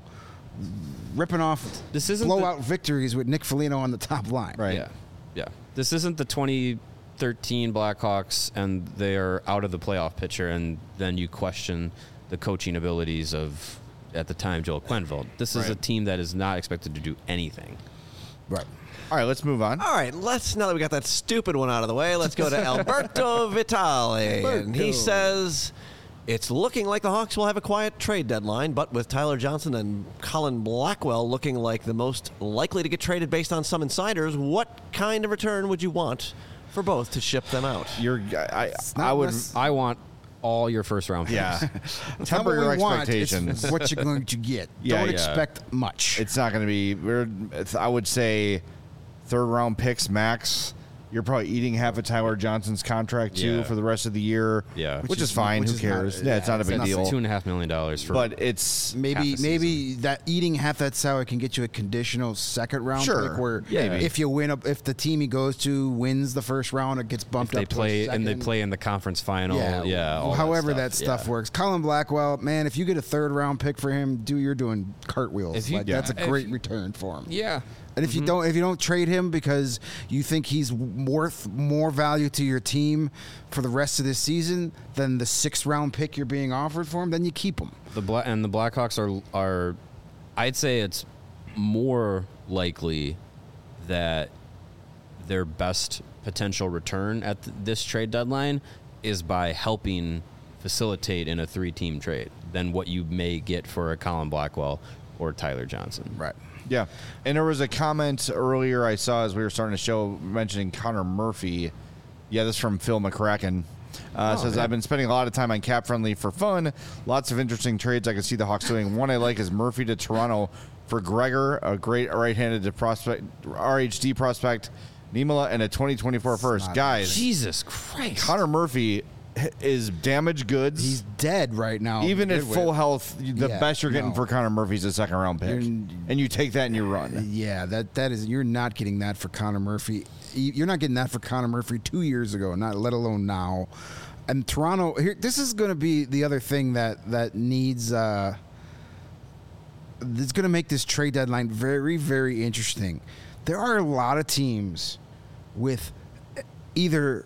ripping off this isn't blowout the, victories with Nick Foligno on the top line. Right. Yeah. Yeah. This isn't the twenty thirteen Blackhawks and they are out of the playoff picture and then you question the coaching abilities of, at the time, Joel Quenneville. This is right. a team that is not expected to do anything. Right. All right, let's move on. All right, let's, now that we got that stupid one out of the way, let's go to Alberto Vitale. Alberto. And he says, it's looking like the Hawks will have a quiet trade deadline, but with Tyler Johnson and Colin Blackwell looking like the most likely to get traded based on some insiders, what kind of return would you want for both to ship them out? You're, I, I, I would. I want all your first round picks. Yeah. Temper your expectations. expectations. It's what you're going to get. Yeah, Don't yeah. expect much. It's not going to be. We're, it's, I would say, third round picks max. You're probably eating half of Tyler Johnson's contract too Yeah. for the rest of the year. Yeah. which, Which is, is- fine. which Who is not- cares? yeah, yeah, it's not a it's big nothing. deal. Two and a half million dollars for. But it's Maybe half a maybe that eating half that salary can get you a conditional second round Sure. pick where Yeah. Maybe. if you win up if the team he goes to wins the first round it gets bumped they up play to a and they second. play in the conference final. Yeah. yeah all however that that stuff, stuff, yeah. works. Colin Blackwell, man, if you get a third round pick for him, do you're doing cartwheels. If you- like, yeah. That's a If great you- return for him. Yeah. And if you don't if you don't trade him because you think he's worth more value to your team for the rest of this season than the sixth round pick you're being offered for him, then you keep him. The Bla- and the Blackhawks are are, I'd say it's more likely that their best potential return at th- this trade deadline is by helping facilitate in a three-team trade than what you may get for a Colin Blackwell or Tyler Johnson. Right. Yeah. And there was a comment earlier I saw as we were starting the show mentioning Connor Murphy. Yeah, this is from Phil McCracken. Uh, Oh, says, yeah. I've been spending a lot of time on Cap Friendly for fun. Lots of interesting trades I can see the Hawks doing. One I like is Murphy to Toronto for Gregor, a great right-handed prospect, R H D prospect, Niemela, and a twenty twenty-four first. Guys, Jesus Christ. Connor Murphy is damaged goods. He's dead right now. Even at Good full with- health, the Yeah, best you're getting no. for Connor Murphy is a second round pick. You're- and you take that and you run. Yeah, that that is you're not getting that for Connor Murphy. You're not getting that for Connor Murphy two years ago, not let alone now. And Toronto, here, this is going to be the other thing that that needs. Uh, that's going to make this trade deadline very, very interesting. There are a lot of teams with either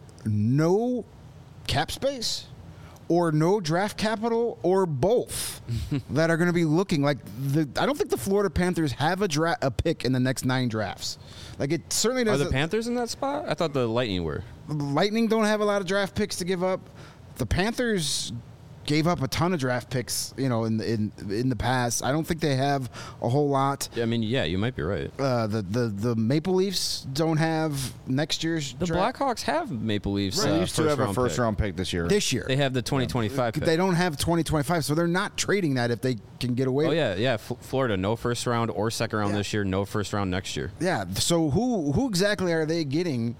no cap space or no draft capital or both that are going to be looking like the. I don't think the Florida Panthers have a dra- a pick in the next nine drafts. Like it certainly Are doesn't. the Panthers in that spot? I thought the Lightning were. The Lightning don't have a lot of draft picks to give up. The Panthers gave up a ton of draft picks, you know, in the, in in the past. I don't think they have a whole lot. I mean, yeah, you might be right. Uh, the, the the Maple Leafs don't have next year's The draft. Blackhawks have Maple Leafs. Right. Uh, They used to first have a round first pick. round pick this year. this year. They have the twenty twenty-five pick. They don't have twenty twenty-five, so they're not trading that if they can get away. Oh yeah, yeah. F- Florida, no first round or second round Yeah. this year. No first round next year. Yeah. So who who exactly are they getting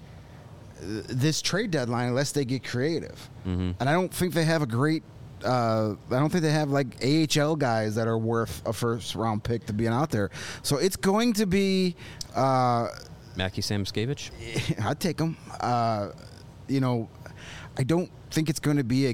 uh, this trade deadline unless they get creative? Mm-hmm. And I don't think they have a great. Uh, I don't think they have like A H L guys that are worth a first round pick to be out there. So it's going to be. Uh, Mackie Samoskevich. I'd take them. Uh, you know, I don't think it's going to be a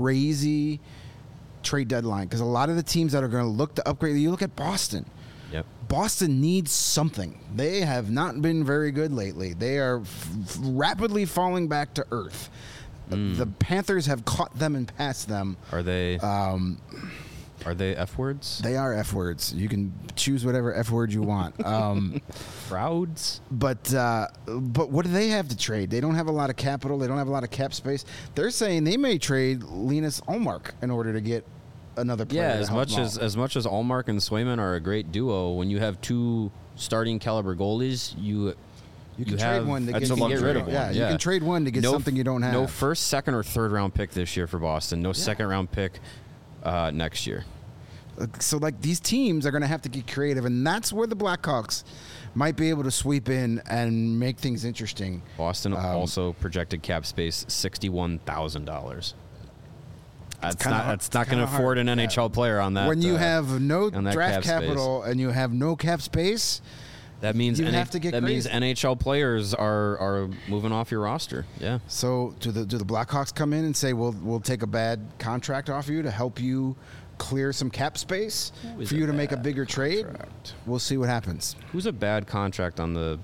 crazy trade deadline because a lot of the teams that are going to look to upgrade. You look at Boston. Yep. Boston needs something. They have not been very good lately. They are f- f- rapidly falling back to earth. Mm. The Panthers have caught them and passed them. Are they? Um, are they F words? They are F words. You can choose whatever F word you want. Um, Crowds. But uh, but what do they have to trade? They don't have a lot of capital. They don't have a lot of cap space. They're saying they may trade Linus Ullmark in order to get another player. Yeah, to as help much them as out. as much as Allmark and Swayman are a great duo, when you have two starting caliber goalies, you You can you trade have, one to you get can something. get rid of one. Yeah, you can trade one to get No something you don't have. No first, second, or third round pick this year for Boston. No second round pick uh, next year. So, like, these teams are going to have to get creative, and that's where the Blackhawks might be able to sweep in and make things interesting. Boston Um, also projected cap space sixty-one thousand dollars. That's kinda not hard- that's not kinda going to afford hard. an N H L Yeah. player on that. When you uh, have no on that draft cap space. capital and you have no cap space, That means you N- have to get that means crazy. N H L players are are moving off your roster. Yeah. So do the do the Blackhawks come in and say we'll we'll take a bad contract off you to help you clear some cap space Who is for you a to make a bad bigger trade? We'll see what happens. Who's a bad contract on the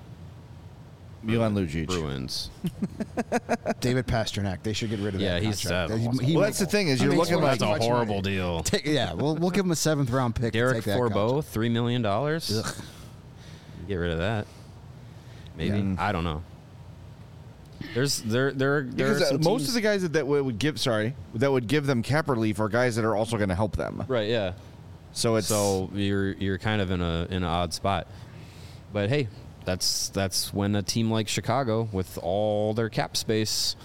Milan Lucic. Bruins? David Pasternak. They should get rid of Yeah, that he's contract. uh, He- awesome. he Well, makes- that's the thing is he you're makes looking way like too That's a much horrible money. deal. Take- yeah, we'll we'll give him a seventh round pick. to Derek take that contract. Forbeau, three million dollars. Get rid of that. Maybe Yeah. I don't know. There's there there there Because are uh, some most teams- of the guys that, that would give sorry that would give them cap relief are guys that are also going to help them. right. Yeah. So it's So you're you're kind of in a in an odd spot. But hey, that's that's when a team like Chicago with all their cap space,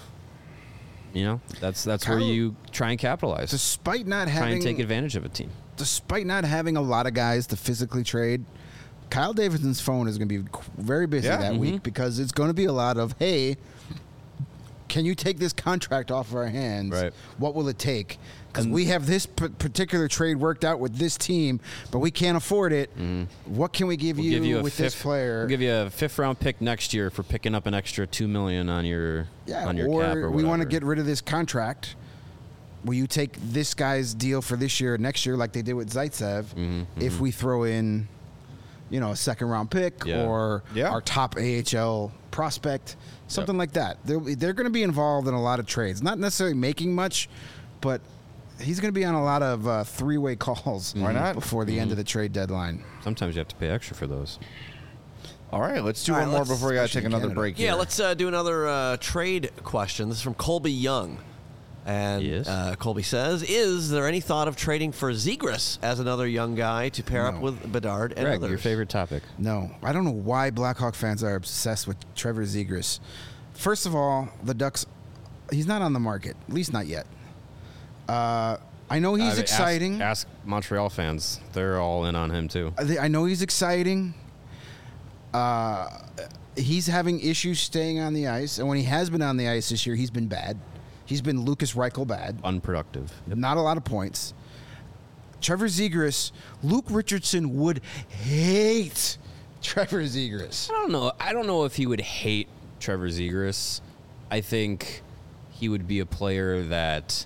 you know, that's that's where Kyle- you try and capitalize. Despite not try having and take advantage of a team. despite not having a lot of guys to physically trade, Kyle Davidson's phone is going to be qu- very busy Yeah. that Mhm. week because it's going to be a lot of, hey, can you take this contract off of our hands? Right. What will it take? Because we have this p- particular trade worked out with this team, but we can't afford it. What can we give, We'll you, give you a with fifth, this player? We'll give you a fifth round pick next year for picking up an extra two million on your yeah, on your or, cap or we want to whatever. get rid of this contract. Will you take this guy's deal for this year, next year, like they did with Zaitsev? Mhm, If mhm. we throw in, you know, a second round pick Yeah. or Yeah. our top A H L prospect, something like that. They're, they're going to be involved in a lot of trades. Not necessarily making much, but he's going to be on a lot of uh, three way calls Why not? before the end of the trade deadline. Sometimes you have to pay extra for those. all right. Let's do All one right, more let's- before we got to especially take in another Canada. break. Yeah, here. let's uh, do another uh, trade question. This is from Colby Young. And Yes. uh, Colby says, is there any thought of trading for Zegras as another young guy to pair up No. with Bedard and Greg, others? your favorite topic. No, I don't know why Blackhawk fans are obsessed with Trevor Zegras. First of all, the Ducks, he's not on the market, at least not yet. Uh, I know he's I mean, ask- exciting. Ask, Montreal fans; they're all in on him too. I thi- I know he's exciting. Uh, he's having issues staying on the ice, and when he has been on the ice this year, he's been bad. He's been Lucas Reichel bad. Unproductive. Not a lot of points. Trevor Zegras, Luke Richardson would hate Trevor Zegras. I don't know. I don't know if he would hate Trevor Zegras. I think he would be a player that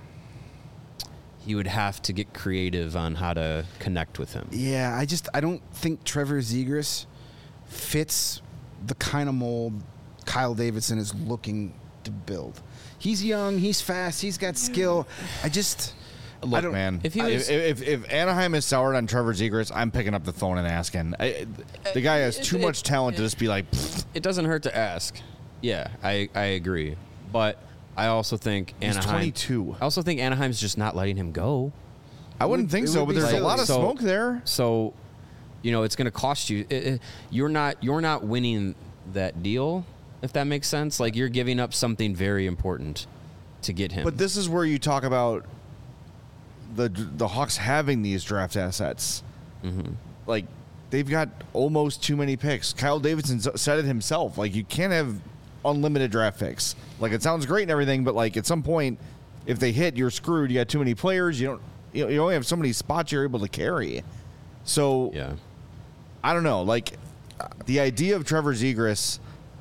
he would have to get creative on how to connect with him. Yeah, I just I don't think Trevor Zegras fits the kind of mold Kyle Davidson is looking to build. He's young, he's fast, he's got skill. I just I Look, don't- man. If he If, was- if, if Anaheim is soured on Trevor Zegras, I'm picking up the phone and asking. I, the guy has too it- much it- talent to just be like. "Pfft." It doesn't hurt to ask. Yeah, I, I agree. But I also think He's Anaheim. twenty-two. I also think Anaheim's just not letting him go. I wouldn't would- think it so, would but be there's a silly. lot of So- smoke there. So, you know, it's going to cost you. It, it- you're not you're not winning that deal, if that makes sense. Like you're giving up something very important to get him. But this is where you talk about the the Hawks having these draft assets. Mm-hmm. Like they've got almost too many picks. Kyle Davidson s- said it himself. Like you can't have unlimited draft picks. Like it sounds great and everything, but like at some point, if they hit, you're screwed. You got too many players. You don't. You, know, you only have so many spots you're able to carry. So yeah, I don't know. Like the idea of Trevor Zegras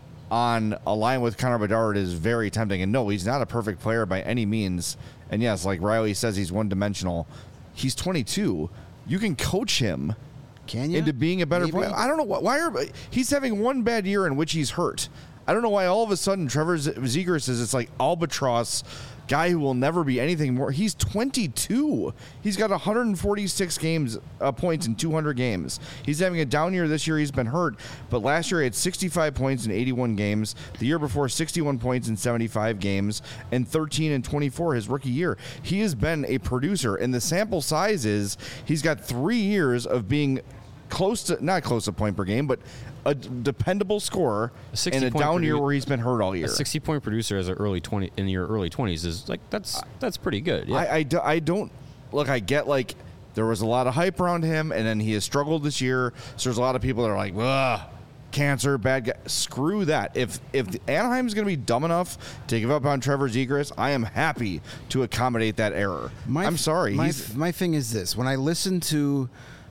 on a line with Connor Bedard is very tempting. And no, he's not a perfect player by any means. And yes, like Riley says, he's one dimensional. He's twenty-two. You can coach him Can you? into being a better Maybe. player. I don't know why. Why are he's having one bad year in which he's hurt? I don't know why all of a sudden Trevor Z- Zegras is it's like albatross guy who will never be anything more. He's twenty-two. He's got one hundred forty-six games uh, points in two hundred games. He's having a down year this year. He's been hurt, but last year he had sixty-five points in eighty-one games. The year before, sixty-one points in seventy-five games, and thirteen and twenty-four his rookie year. He has been a producer, and the sample size is he's got three years of being close to not close to point per game, but a d- dependable scorer A in a point down year produ- where he's been hurt all year. a sixty point producer as an early twenty in your early twenties is like that's that's pretty good. Yeah. I, I, do, I don't look. I get like there was a lot of hype around him, and then he has struggled this year. So there's a lot of people that are like, ugh, cancer, bad guy. Screw that. If if Anaheim's going to be dumb enough to give up on Trevor Zegras, I am happy to accommodate that error. My, I'm sorry. My, He's, my thing is this. When I listen to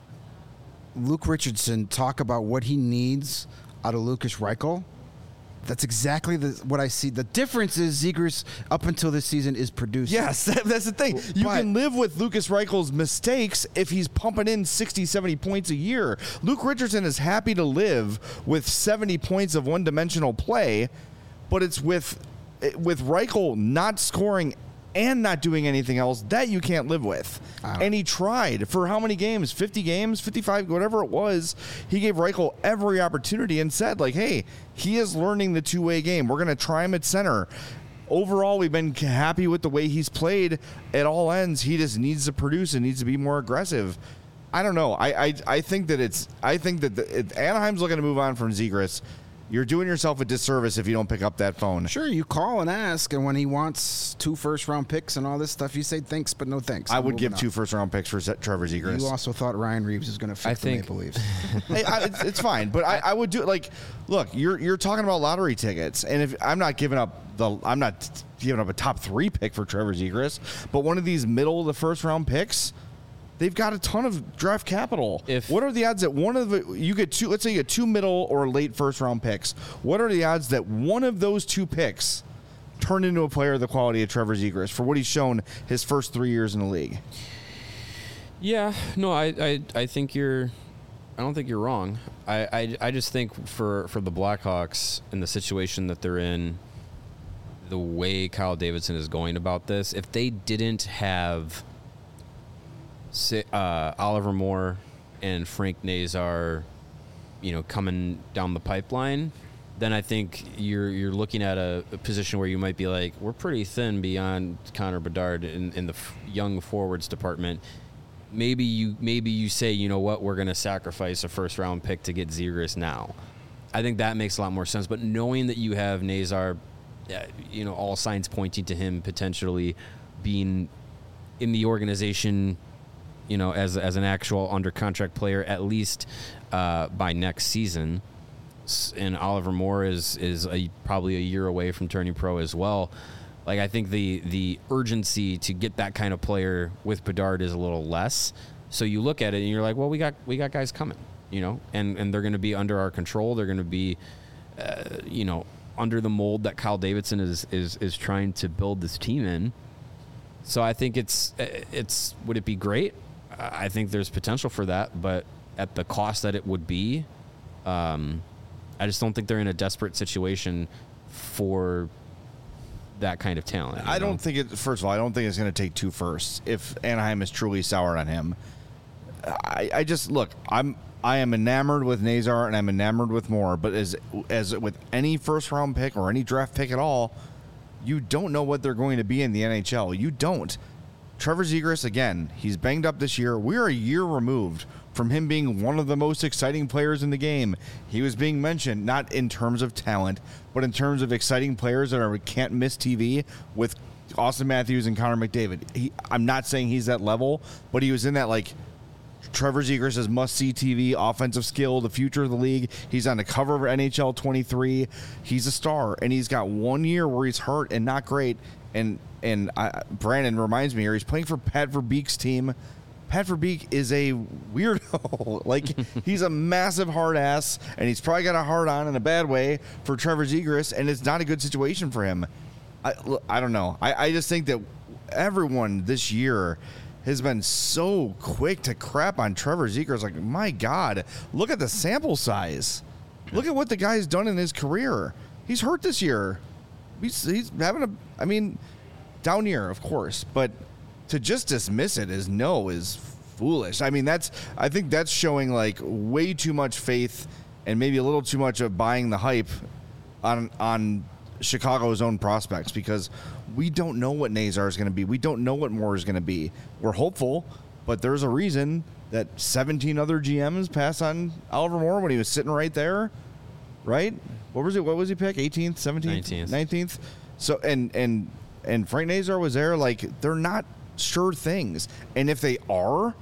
Luke Richardson talk about what he needs out of Lucas Reichel, that's exactly the, what I see. The difference is Zegras, up until this season, is producing. yes, that, that's the thing. You But- can live with Lucas Reichel's mistakes if he's pumping in sixty, seventy points a year. Luke Richardson is happy to live with seventy points of one-dimensional play, but it's with with Reichel not scoring and not doing anything else that you can't live with. And he tried for how many games? fifty games, fifty-five, whatever it was. He gave Reichel every opportunity and said, like, hey, he is learning the two-way game. We're going to try him at center. Overall, we've been happy with the way he's played at all ends. He just needs to produce and needs to be more aggressive. I don't know. I I, I think that it's. I think that the, it, Anaheim's looking to move on from Zegras. You're doing yourself a disservice if you don't pick up that phone. Sure, you call and ask, and when he wants two first-round picks and all this stuff, you say thanks, but no thanks. I I'm would give moving two on. first-round picks for Z- Trevor Zegras. You also thought Ryan Reeves was going to fix I the think- Maple Leafs. Hey, I, it's, it's fine, but I, I would do like, look, you're you're talking about lottery tickets, and if I'm not giving up the, I'm not giving up a top three pick for Trevor Zegras, but one of these middle of the first round picks, they've got a ton of draft capital. If- what are the odds that one of the you get two? Let's say you get two middle or late first round picks. What are the odds that one of those two picks turn into a player of the quality of Trevor Zegras for what he's shown his first three years in the league? Yeah, no, I, I, I think you're, I don't think you're wrong. I, I, I just think for, for the Blackhawks in the situation that they're in, the way Kyle Davidson is going about this, if they didn't have si- uh, Oliver Moore and Frank Nazar, you know, coming down the pipeline, then I think you're you're looking at a, a position where you might be like, we're pretty thin beyond Connor Bedard in, in the f- young forwards department. Maybe you maybe you say, you know what, we're going to sacrifice a first round pick to get Zegras now. I think that makes a lot more sense. But knowing that you have Nazar, uh, you know, all signs pointing to him potentially being in the organization, you know, as as an actual under contract player at least uh, by next season. And Oliver Moore is is a, probably a year away from turning pro as well. Like, I think the the urgency to get that kind of player with Bedard is a little less. So you look at it and you're like, well, we got we got guys coming, you know, and and they're going to be under our control. They're going to be, uh, you know, under the mold that Kyle Davidson is is is trying to build this team in. So I think it's it's would it be great? I think there's potential for that, but at the cost that it would be. Um, I just don't think they're in a desperate situation for that kind of talent. I you know? don't think it. First of all, I don't think it's going to take two firsts if Anaheim is truly soured on him. I, I just look. I'm. I am enamored with Nazar and I'm enamored with Moore. But as as with any first round pick or any draft pick at all, you don't know what they're going to be in the N H L. You don't. Trevor Zegras, again, he's banged up this year. We're a year removed from him being one of the most exciting players in the game. He was being mentioned not in terms of talent, but in terms of exciting players that are can't miss T V with Austin Matthews and Connor McDavid. He, I'm not saying he's that level, but he was in that, like, Trevor Zegras is must-see T V, offensive skill, the future of the league. He's on the cover of N H L twenty-three. He's a star, and he's got one year where he's hurt and not great. And and I, Brandon reminds me here, he's playing for Pat Verbeek's team. Pat Verbeek is a weirdo. Like, he's a massive hard ass, and he's probably got a hard on in a bad way for Trevor Zegras, and it's not a good situation for him. I, I don't know. I, I just think that everyone this year has been so quick to crap on Trevor Zegras. Like, my God, look at the sample size. Look at what the guy's done in his career. He's hurt this year. He's, he's having a, I mean, down year, of course, but to just dismiss it as no is foolish. I mean, that's, I think that's showing like way too much faith and maybe a little too much of buying the hype on, on Chicago's own prospects, because we don't know what Nazar is going to be. We don't know what Moore is going to be. We're hopeful, but there's a reason that seventeen other G Ms passed on Oliver Moore when he was sitting right there, right? What was it? What was he pick? eighteenth, seventeenth, nineteenth. nineteenth. So and and and Frank Nazar was there. Like, they're not sure things, and if they are,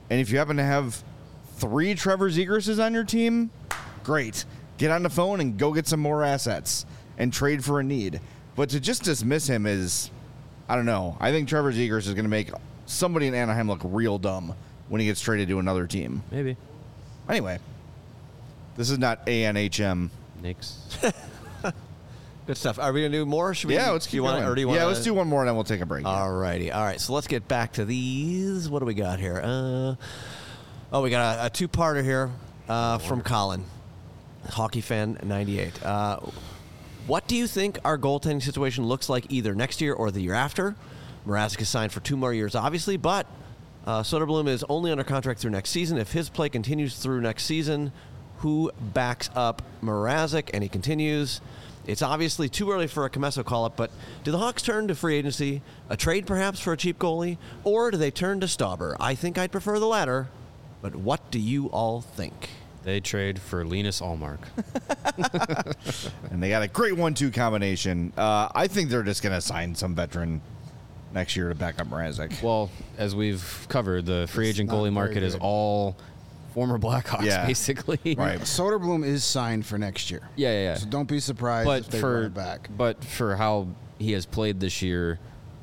And if you happen to have three Trevor Zegrases on your team, great. Get on the phone and go get some more assets and trade for a need. But to just dismiss him is, I don't know. I think Trevor Zegras is going to make somebody in Anaheim look real dumb when he gets traded to another team. Maybe. Anyway, this is not A N H M. Knicks. Good stuff. Are we going to do more? Should we Yeah, do, let's do keep you wanna, going. or do you yeah, wanna, let's do one more and then we'll take a break. All righty. All right, so let's get back to these. What do we got here? Uh, oh, we got a, a two-parter here uh, from Colin, Hockey Fan ninety-eight. Uh, what do you think our goaltending situation looks like either next year or the year after? Mrazek is signed for two more years, obviously, but uh, Soderblom is only under contract through next season. If his play continues through next season, who backs up Mrazek? And he continues. It's obviously too early for a Comesso call-up, but do the Hawks turn to free agency, a trade perhaps for a cheap goalie, or do they turn to Stauber? I think I'd prefer the latter, but what do you all think? They trade for Linus Ullmark. And they got a great one two combination. Uh, I think they're just going to sign some veteran next year to back up Mrazek. Well, as we've covered, the free It's agent not goalie very market is good. all former Blackhawks, Yeah. basically. Right. Soderblom is signed for next year. Yeah, yeah, yeah. So don't be surprised But if they for run it back. but for how he has played this year,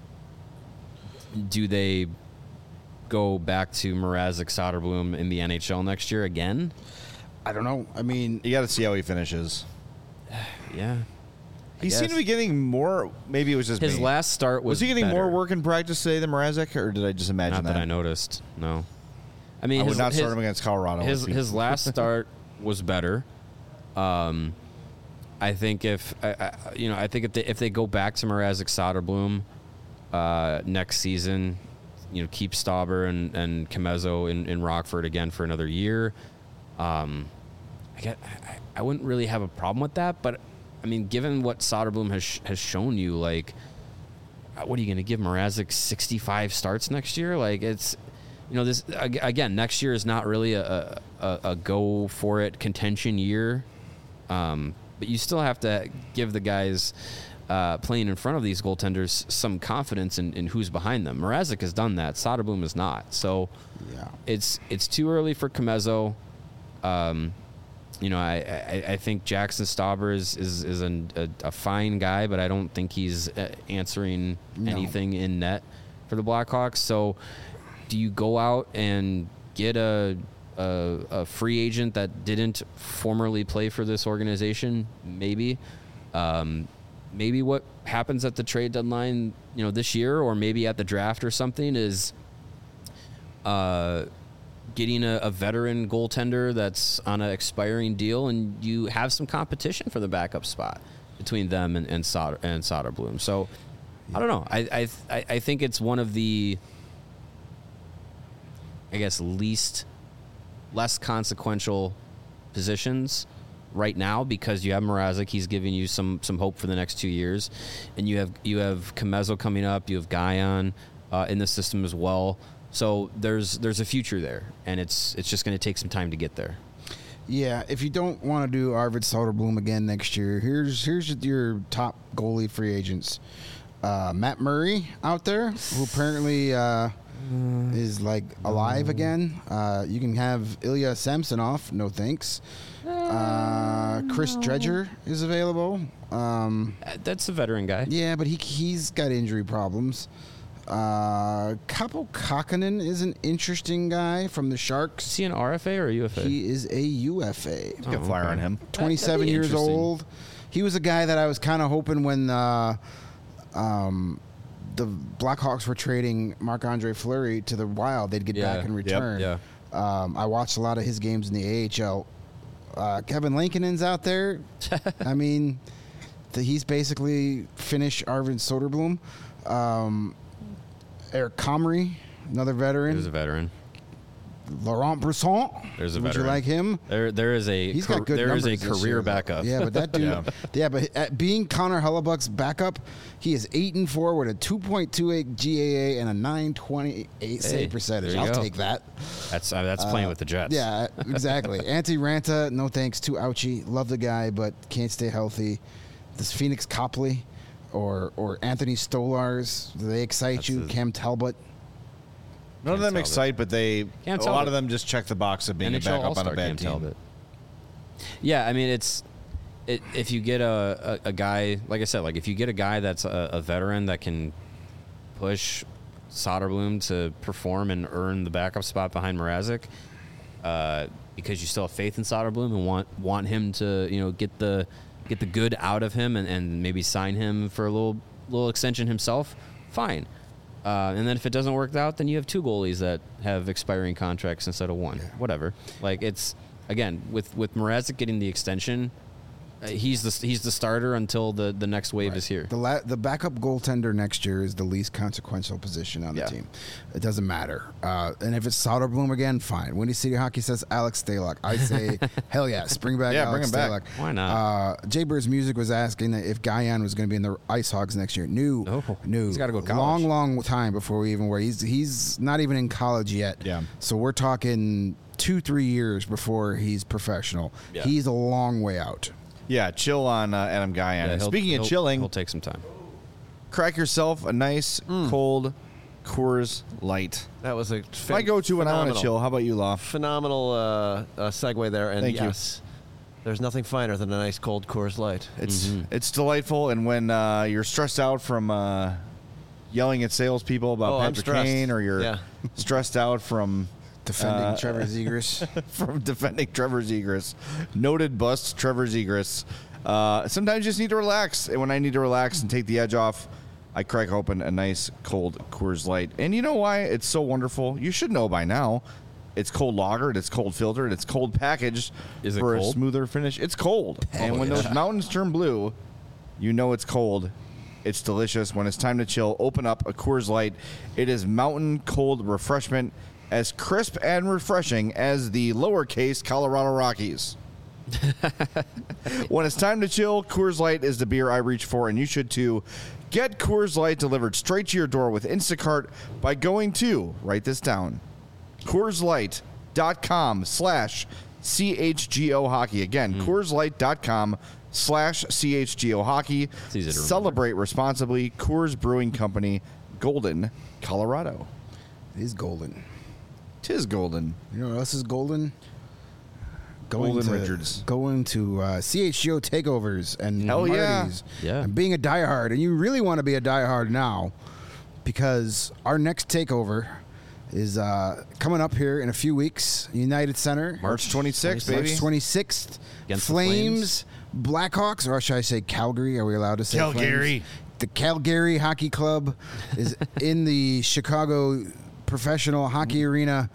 do they go back to Mrazek, Soderblom in the N H L next year again? I don't know. I mean, You got to see how he finishes. Yeah. He guess. seemed to be getting more. Maybe it was just His me. last start was Was he getting better. more work in practice today than Mrazek, or did I just imagine Not that that? I noticed. No. I mean, I would his, not his, start him against Colorado. His if he- his last start was better. Um, I think if I, I, you know, I think if they if they go back to Mrazek, Soderblom uh, next season, you know, keep Stauber and and Comesso in, in Rockford again for another year. Um, I get I, I wouldn't really have a problem with that, but I mean, given what Soderblom has sh- has shown you, like, what are you going to give Mrazek sixty-five starts next year? Like, it's. You know, this again. Next year is not really a, a, a go for it contention year, um, but you still have to give the guys uh, playing in front of these goaltenders some confidence in, in who's behind them. Mrazek has done that. Soderblom is not. So yeah, it's it's too early for Comesso. Um, you know, I, I, I think Jackson Stauber is is, is an, a, a fine guy, but I don't think he's uh, answering No. anything in net for the Blackhawks. So. Do you go out and get a, a a free agent that didn't formerly play for this organization? Maybe, um, maybe what happens at the trade deadline, you know, this year, or maybe at the draft or something, is uh, getting a, a veteran goaltender that's on an expiring deal, and you have some competition for the backup spot between them and and, Soder, and Soderblom. So I don't know. I I I think it's one of the I guess least less consequential positions right now, because you have Mrazek, he's giving you some some hope for the next two years, and you have you have Comesso coming up, you have Guyon uh, in the system as well. So there's there's a future there, and it's it's just going to take some time to get there. Yeah, if you don't want to do Arvid Soderblom again next year, here's here's your top goalie free agents. Uh, Matt Murray out there, who apparently uh, is like alive again. Uh, you can have Ilya Samsonov, no thanks. Uh, Chris Dredger is available. Um, That's a veteran guy. Yeah, but he he's got injury problems. Uh, Kaapo Kakkonen is an interesting guy from the Sharks. Is he an R F A or a U F A? He is a U F A. Let's get a flyer on him. twenty-seven years old. He was a guy that I was kind of hoping when uh, um, the Blackhawks were trading Marc-Andre Fleury to the Wild, they'd get Yeah. back in Yep. return. Yeah. Um, I watched a lot of his games in the A H L. Uh, Kevin Lankinen's out there. I mean, the, he's basically Finnish Arvid Soderblom. Um, Eric Comrie, another veteran. There's a veteran. Laurent Brisson. There's a Would veteran. you like him? There, there is a. He's car- got good There is numbers a this career year, though. backup. Yeah, but that dude. Yeah. yeah. but at being Connor Hellebuck's backup, he is eight and four with a two point two eight G A A and a nine twenty eight Hey, save percentage. there you I'll go. take that. That's uh, that's playing Uh, with the Jets. Yeah, exactly. Antti Ranta, no thanks. Too ouchy. Love the guy, but can't stay healthy. This Phoenix Copley or or Anthony Stolars, do they excite That's you? a- Cam Talbot. None of them Talbot. excite, but they Cam a lot Talbot. of them just check the box of being N a H L backup on All-Star a bad Cam team. Talbot. Yeah, I mean it's it, if you get a, a, a guy like I said, like if you get a guy that's a, a veteran that can push Soderblom to perform and earn the backup spot behind Mrazek, uh, because you still have faith in Soderblom and want want him to you know get the get the good out of him and, and maybe sign him for a little little extension himself, fine. Uh, and then if it doesn't work out, then you have two goalies that have expiring contracts instead of one. Whatever. Like it's again with with Mrazek getting the extension, uh, he's the he's the starter until the, the next wave Right. is here. The la- the backup goaltender next year is the least consequential position on the Yeah. team. It doesn't matter. Uh, and if it's Soderblom again, fine. Windy City Hockey says Alex Stalock. I say, hell yes, bring back Yeah, Alex bring him back. Stalock. Why not? Uh, Jay Bird's Music was asking that if Guyan was going to be in the Ice Hogs next year. No, No. no. He's gotta go to college. Long, long time before we even were. He's he's not even in college yet. Yeah. So we're talking two, three years before he's professional. Yeah. He's a long way out. Yeah, chill on uh, Adam Guyan. Yeah, he'll- Speaking he'll- of chilling, he'll take some time. crack yourself a nice cold Coors Light. That was a My go-to when I want to phenomenal- chill. How about you, Law? Phenomenal uh, uh, segue there, and Thank you. yes, there's nothing finer than a nice cold Coors Light. It's Mm-hmm. it's delightful, and when uh, you're stressed out from uh, yelling at salespeople about Oh, I'm Patrick stressed. Kane, or you're Yeah. stressed out from Defending uh, Trevor Zegras. from defending Trevor Zegras, noted bust Trevor Zegras. Uh, sometimes you just need to relax, and when I need to relax and take the edge off, I crack open a nice cold Coors Light. And you know why it's so wonderful? You should know by now. It's cold lagered, it's cold filtered, it's cold packaged Is it for a cold? smoother finish. It's cold. and when those mountains turn blue, you know it's cold. It's delicious. When it's time to chill, open up a Coors Light. It is mountain cold refreshment, as crisp and refreshing as the lowercase Colorado Rockies. When it's time to chill, Coors Light is the beer I reach for, and you should too. Get Coors Light delivered straight to your door with Instacart by going to, write this down, CoorsLight.com slash CHGO Hockey. Again, CoorsLight.com slash CHGO Hockey. easy to remember. Celebrate responsibly. Coors Brewing Company, Golden, Colorado. He's golden. Tis Golden. You know what else is golden? Going Golden to, Richards. Going to uh, C H G O takeovers and Hell yeah. parties. Yeah. And being a diehard. And you really want to be a diehard now because our next takeover is uh, coming up here in a few weeks. United Center. March twenty-sixth, baby. March twenty-sixth. Against the Flames, Blackhawks, or should I say Calgary? Are we allowed to say Calgary. Flames? The Calgary Hockey Club is in the Chicago Professional Hockey Arena.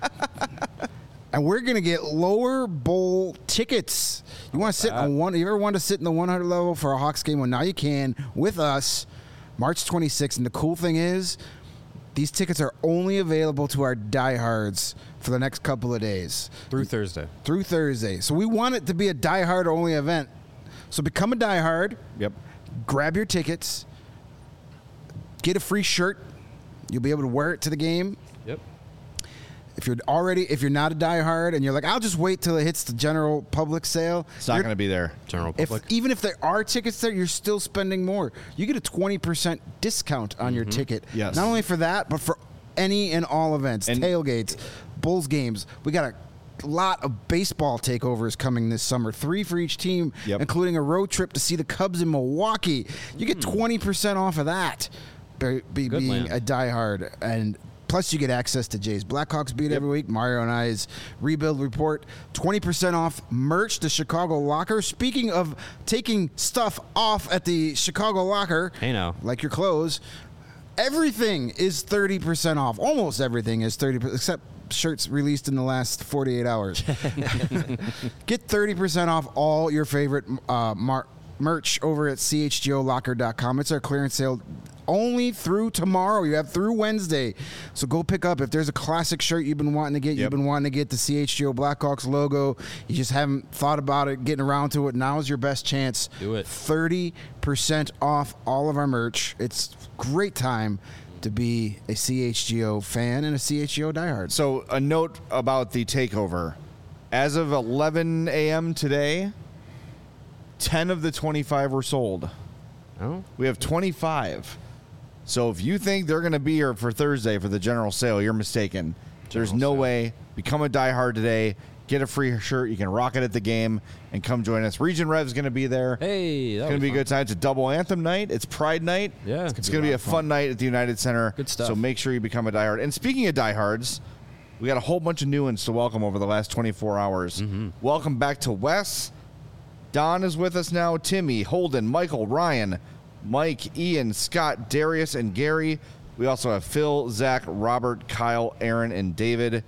And we're gonna get lower bowl tickets. You want to sit on one? You ever want to sit in the one hundred level for a Hawks game? Well, now you can with us, March twenty-sixth. And the cool thing is, these tickets are only available to our diehards for the next couple of days Through Thursday. through Thursday. So we want it to be a diehard only event. So become a diehard. Yep. Grab your tickets. Get a free shirt. You'll be able to wear it to the game. Yep. If you're already, if you're not a diehard and you're like, I'll just wait till it hits the general public sale. It's not you're- going to be there. General If, public. even if there are tickets there, you're still spending more. You get a twenty percent discount on your ticket. Yes. Not only for that, but for any and all events, And- tailgates, Bulls games. We got a lot of baseball takeovers coming this summer. Three for each team, Yep. including a road trip to see the Cubs in Milwaukee. You get twenty percent off of that. Be, be, Good being land. a diehard, and plus you get access to Jay's Blackhawks beat every week, Mario and I's rebuild report, twenty percent off merch, the Chicago Locker. Speaking of taking stuff off at the Chicago Locker, Hey now. like your clothes, everything is thirty percent off. Almost everything is thirty percent, except shirts released in the last forty-eight hours. Get thirty percent off all your favorite uh, mar- merch over at C H G O locker dot com. It's our clearance sale only through tomorrow. You have through Wednesday. So go pick up. If there's a classic shirt you've been wanting to get, Yep. you've been wanting to get the C H G O Blackhawks logo, you just haven't thought about it, getting around to it, now is your best chance. Do it. thirty percent off all of our merch. It's great time to be a C H G O fan and a C H G O diehard. So a note about the takeover. As of eleven a.m. today, ten of the twenty-five were sold. Oh. We have twenty-five. So if you think they're going to be here for Thursday for the general sale, you're mistaken. There's no way. Become a diehard today. Get a free shirt. You can rock it at the game and come join us. Region Rev's going to be there. Hey, it's going to be a good time. It's a double anthem night. It's Pride night. Yeah, it's going to be a fun night at the United Center. Good stuff. So make sure you become a diehard. And speaking of diehards, we got a whole bunch of new ones to welcome over the last twenty-four hours. Mm-hmm. Welcome back to Wes. Don is with us now. Timmy, Holden, Michael, Ryan, Mike, Ian, Scott, Darius, and Gary. We also have Phil, Zach, Robert, Kyle, Aaron, and David.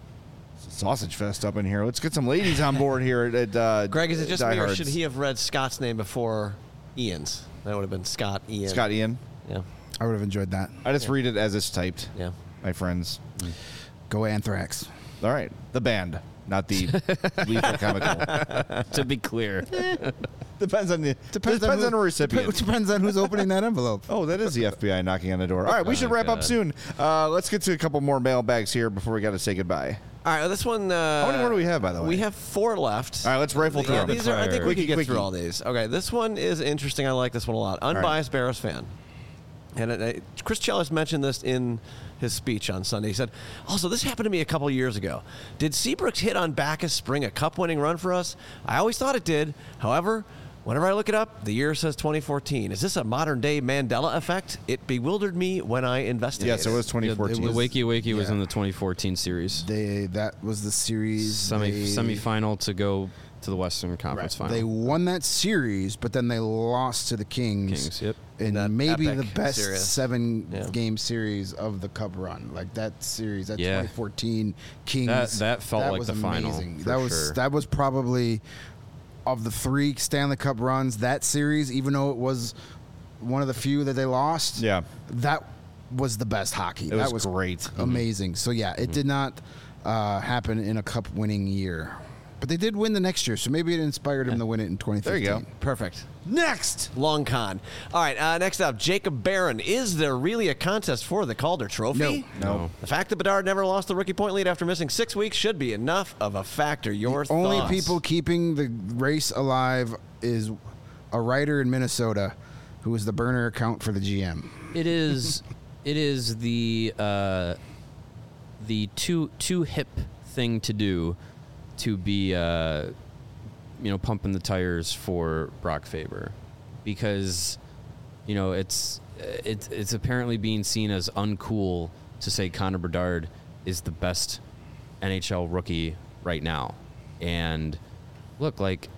Sausage fest up in here. Let's get some ladies on board here at, at uh, Greg, is it just me, or Diehards. should he have read Scott's name before Ian's? That would have been Scott Ian. Scott Ian? Yeah. I would have enjoyed that. I just read it as it's typed. Yeah. My friends. Go Anthrax. All right. The band, not the lethal chemical. To be clear. Depends on the depends, on on, who- the recipient. Dep- depends on who's opening that envelope. Oh, that is the F B I knocking on the door. All right, we should Oh, wrap up God. soon. Uh, let's get to a couple more mailbags here before we got to say goodbye. All right, well, this one. Uh, How many more do we have, by the way? We have four left. All right, let's rifle through Yeah, them. these are, I think we Quickie, can get quickie. through all these. Okay, this one is interesting. I like this one a lot. Unbiased Bears fan. And it, it, Chris Chellis mentioned this in his speech on Sunday. He said, also, this happened to me a couple years ago. Did Seabrook's hit on Bacchus spring a cup-winning run for us? I always thought it did. However, whenever I look it up, the year says twenty fourteen. Is this a modern-day Mandela effect? It bewildered me when I investigated. Yes, it was twenty fourteen. The Wakey Wakey was yeah. in the twenty fourteen series. They that was the series. Semi they, semifinal to go to the Western Conference Right. final. They won that series, but then they lost to the Kings. Kings, yep. In That maybe the epic best series. seven Yeah. game series of the Cup run. Like that series, that Yeah. twenty fourteen Kings. That- that felt like was the final, amazing. for That was sure. that was probably of the three Stanley Cup runs. That series, even though it was one of the few that they lost, Yeah. that was the best hockey. It that was was great. amazing. So yeah, it did not uh, happen in a Cup winning year. But they did win the next year, so maybe it inspired him to win it in twenty fifteen. There you go. Perfect. Next. Long con. All right, uh, next up, Jacob Barron. Is there really a contest for the Calder Trophy? No. No. The fact that Bedard never lost the rookie point lead after missing six weeks should be enough of a factor. Your The only thoughts? people keeping the race alive is a writer in Minnesota who is the burner account for the G M. It is. It is the uh, the too too hip thing to do to be uh, you know pumping the tires for Brock Faber, because you know it's it's it's apparently being seen as uncool to say Connor Bedard is the best N H L rookie right now. And look, like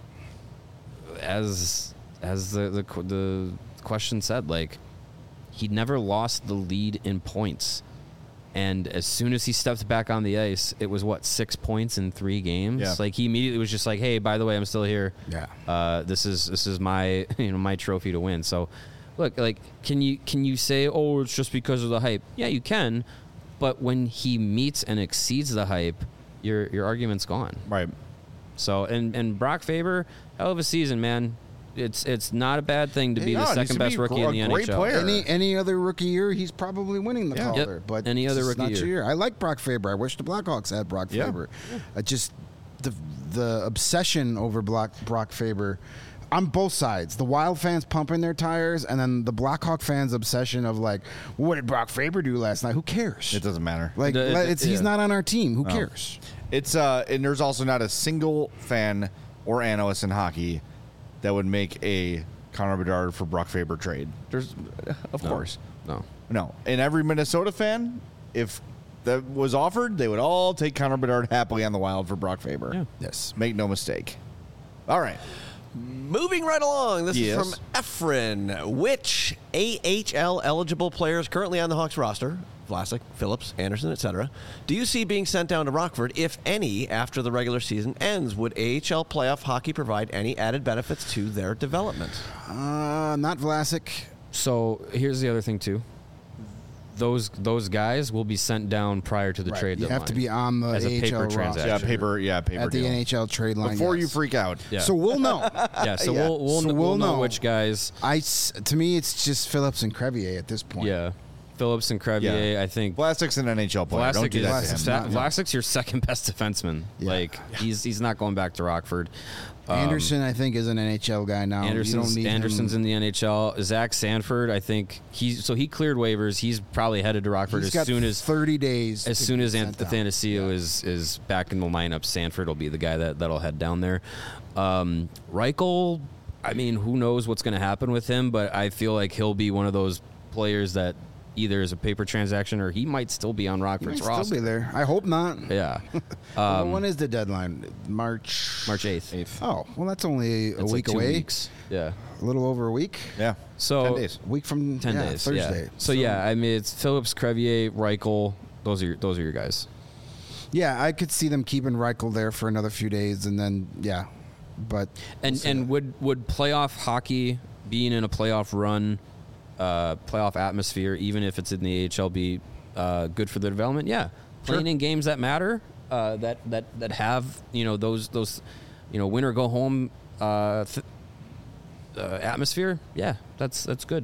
as as the the, the question said, like he never lost the lead in points. And as soon as he stepped back on the ice, it was what, six points in three games. Yeah. Like he immediately was just like, "Hey, by the way, I'm still here. Yeah. Uh, this is this is my you know my trophy to win." So, look, like, can you can you say, "Oh, it's just because of the hype"? Yeah, you can. But when he meets and exceeds the hype, your your argument's gone. Right. So, and and Brock Faber, hell of a season, man. It's it's not a bad thing to be Yeah, the it needs second to best be rookie a in the great N H L. player. Any any other rookie year, he's probably winning the Yeah. Calder. Yep. But Any other it's rookie not year. your year. I like Brock Faber. I wish the Blackhawks had Brock Yeah. Faber. I just the the obsession over Brock Brock Faber. On both sides, the Wild fans pumping their tires, and then the Blackhawk fans' obsession of like, what did Brock Faber do last night? Who cares? It doesn't matter. Like, The- let- it's, he's yeah. not on our team. Who No. cares? It's uh, and there's also not a single fan or analyst in hockey that would make a Connor Bedard for Brock Faber trade. There's, of No. course, No. no. And every Minnesota fan, if that was offered, they would all take Connor Bedard happily on the Wild for Brock Faber. Yeah. Yes. Make no mistake. All right. Moving right along, this Yes. is from Efren. Which A H L eligible players currently on the Hawks roster, Vlasic, Phillips, Anderson, et cetera, do you see being sent down to Rockford, if any, after the regular season ends? Would A H L playoff hockey provide any added benefits to their development? Uh, not Vlasic. So here's the other thing too. Those those guys will be sent down prior to the Right. trade You deadline. have to be on the as a A H L paper roster. transaction. Yeah, paper. Yeah, paper at the deal. N H L trade line. Before you yes. freak out. Yeah. So we'll know. Yeah, so Yeah. we'll we'll, So we'll, we'll know, know. which guys. I s- to me, it's just Phillips and Crevier at this point. Yeah, Phillips and Crevier. Yeah. I think Plastic's an N H L player. Don't Vlasic do is that to him. Vlasic's Sa- not- no. Vlasic's your second best defenseman. Yeah. Like he's he's not going back to Rockford. Anderson, I think, is an N H L guy now. Anderson's, you don't need Anderson's him. in the N H L. Zach Sanford, I think he's so he cleared waivers. He's probably headed to Rockford He's as got soon as thirty days. as to soon get as sent down. Athanasio is is back in the lineup. Sanford will be the guy that that'll head down there. Um, Reichel, I mean, who knows what's going to happen with him? But I feel like he'll be one of those players that either is a paper transaction or he might still be on He Rockford's might roster. still be there. I hope not. Yeah. Well, Um, when is the deadline? March. March eighth. Oh, well, that's only a That's like week two away. weeks. Yeah. A little over a week. Yeah. So ten days. A week from ten yeah, days. Thursday. Yeah. So, yeah, I mean, it's Phillips, Crevier, Reichel. Those are your, those are your guys. Yeah, I could see them keeping Reichel there for another few days, and then yeah, but And we'll see. and would would playoff hockey, being in a playoff run, uh, playoff atmosphere, even if it's in the A H L, be uh, good for the development? Yeah, playing Sure. in games that matter, uh, that that that have you know those those, you know, win or go home uh, th- uh, atmosphere. Yeah, that's that's good.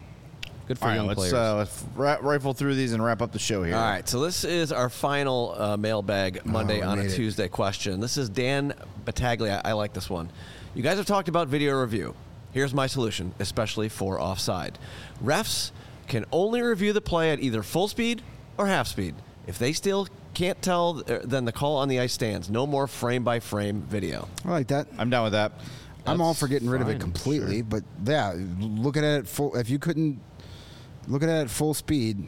Good for All right, young let's players. uh, let's ra- rifle through these and wrap up the show here. All right, so this is our final uh, mailbag Monday Oh, on a made it. Tuesday question. This is Dan Battaglia. I like this one. You guys have talked about video review. Here's my solution, especially for offside. Refs can only review the play at either full speed or half speed. If they still can't tell, uh, then the call on the ice stands. No more frame-by-frame video. I like that. I'm down with that. I'm all That's for getting rid of it fine, completely, but yeah, looking at it full. If you couldn't look at it at full speed,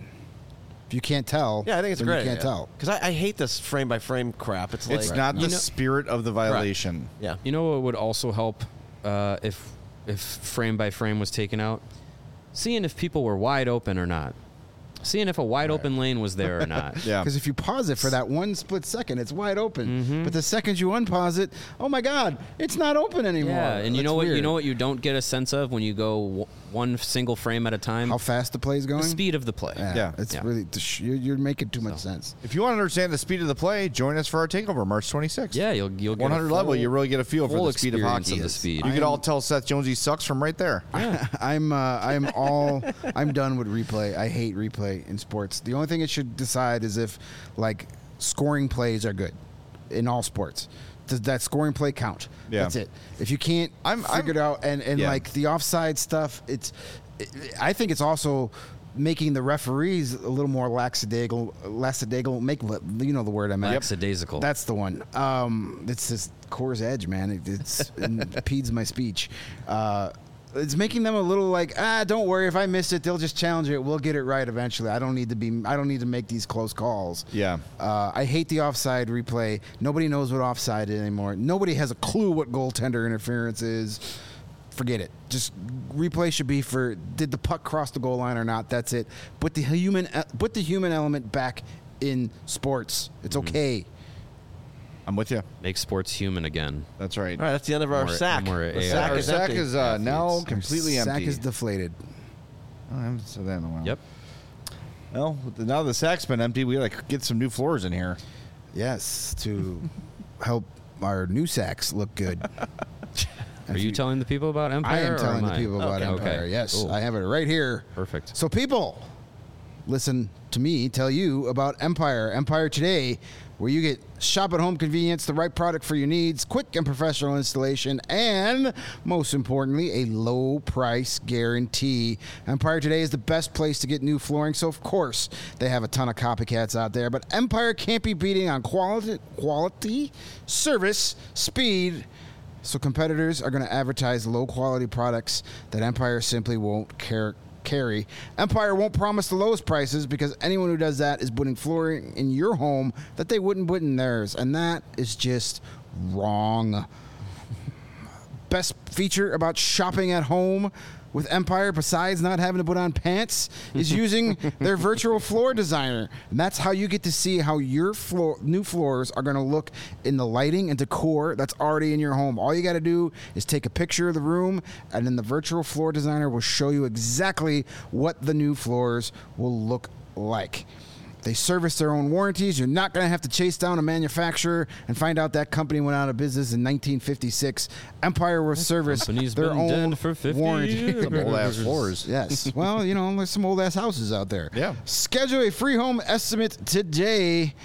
if you can't tell, Yeah, I think it's then great. You can't tell. Because I, I hate this frame-by-frame crap. It's like It's not the You know- spirit of the violation. Yeah. You know what would also help uh, if if frame by frame was taken out? Seeing if people were wide open or not. Seeing if a wide open lane was there or not. Yeah. Because if you pause it for that one split second, it's wide open. Mm-hmm. But the second you unpause it, oh my God, it's not open anymore. Yeah, and you That's know what? You weird. know what you don't get a sense of when you go w- one single frame at a time. How fast the play's going? The speed of the play. Yeah, Yeah. it's Yeah. really you're, you're making too much sense. If you want to understand the speed of the play, join us for our takeover March twenty-sixth. Yeah, you'll you'll get one a hundred level, full- you really get a feel for full the speed of experience hockey. of the speed. You could I'm- all tell Seth Jones he sucks from right there. I'm uh, I'm all I'm done with replay. I hate replay in sports. The only thing it should decide is if like scoring plays are good in all sports. Does that scoring play count? Yeah. That's it. If you can't I'm- figure it I'm- out and, and Yeah. like the offside stuff, it's it, I think it's also making the referees a little more lackadaisical, lackadaisical. Make you know the word I meant. Lackadaisical. That's the one. Um, it's this Coors Edge, man. It, it's it impedes my speech. Uh, it's making them a little like, ah, don't worry. If I miss it, they'll just challenge it. We'll get it right eventually. I don't need to be. I don't need to make these close calls. Yeah. Uh, I hate the offside replay. Nobody knows what offside is anymore. Nobody has a clue what goaltender interference is. Forget it. Just replay should be for did the puck cross the goal line or not. That's it. Put the human put the human element back in sports. It's okay. I'm with you. Make sports human again. That's right. All right, that's the end of our More- sack. more The A I. sack Our is sack empty. is uh, now Athletes. completely Sack empty. is deflated. Oh, I haven't said that in a while. Yep. Well, now the sack's been empty. We got to get some new floors in here. Yes, to help our new sacks look good. Are you telling the people about Empire? I am or telling the I? people about Okay. Empire. Okay. Yes, Cool. I have it right here. Perfect. So people, listen to me tell you about Empire. Empire Today, where you get shop at home convenience, the right product for your needs, quick and professional installation, and most importantly, a low price guarantee. Empire Today is the best place to get new flooring, so of course they have a ton of copycats out there, but Empire can't be beating on quality, quality, service, speed. So competitors are going to advertise low-quality products that Empire simply won't care, carry. Empire won't promise the lowest prices because anyone who does that is putting flooring in your home that they wouldn't put in theirs, and that is just wrong. Best feature about shopping at home with Empire, besides not having to put on pants, is using their virtual floor designer. And that's how you get to see how your floor, new floors are going to look in the lighting and decor that's already in your home. All you got to do is take a picture of the room, and then the virtual floor designer will show you exactly what the new floors will look like. They service their own warranties. You're not going to have to chase down a manufacturer and find out that company went out of business in nineteen fifty-six. Empire will service company's their been own dead for fifty warranty. years. Some old-ass floors. Yes. Well, you know, there's some old ass houses out there. Yeah. Schedule a free home estimate today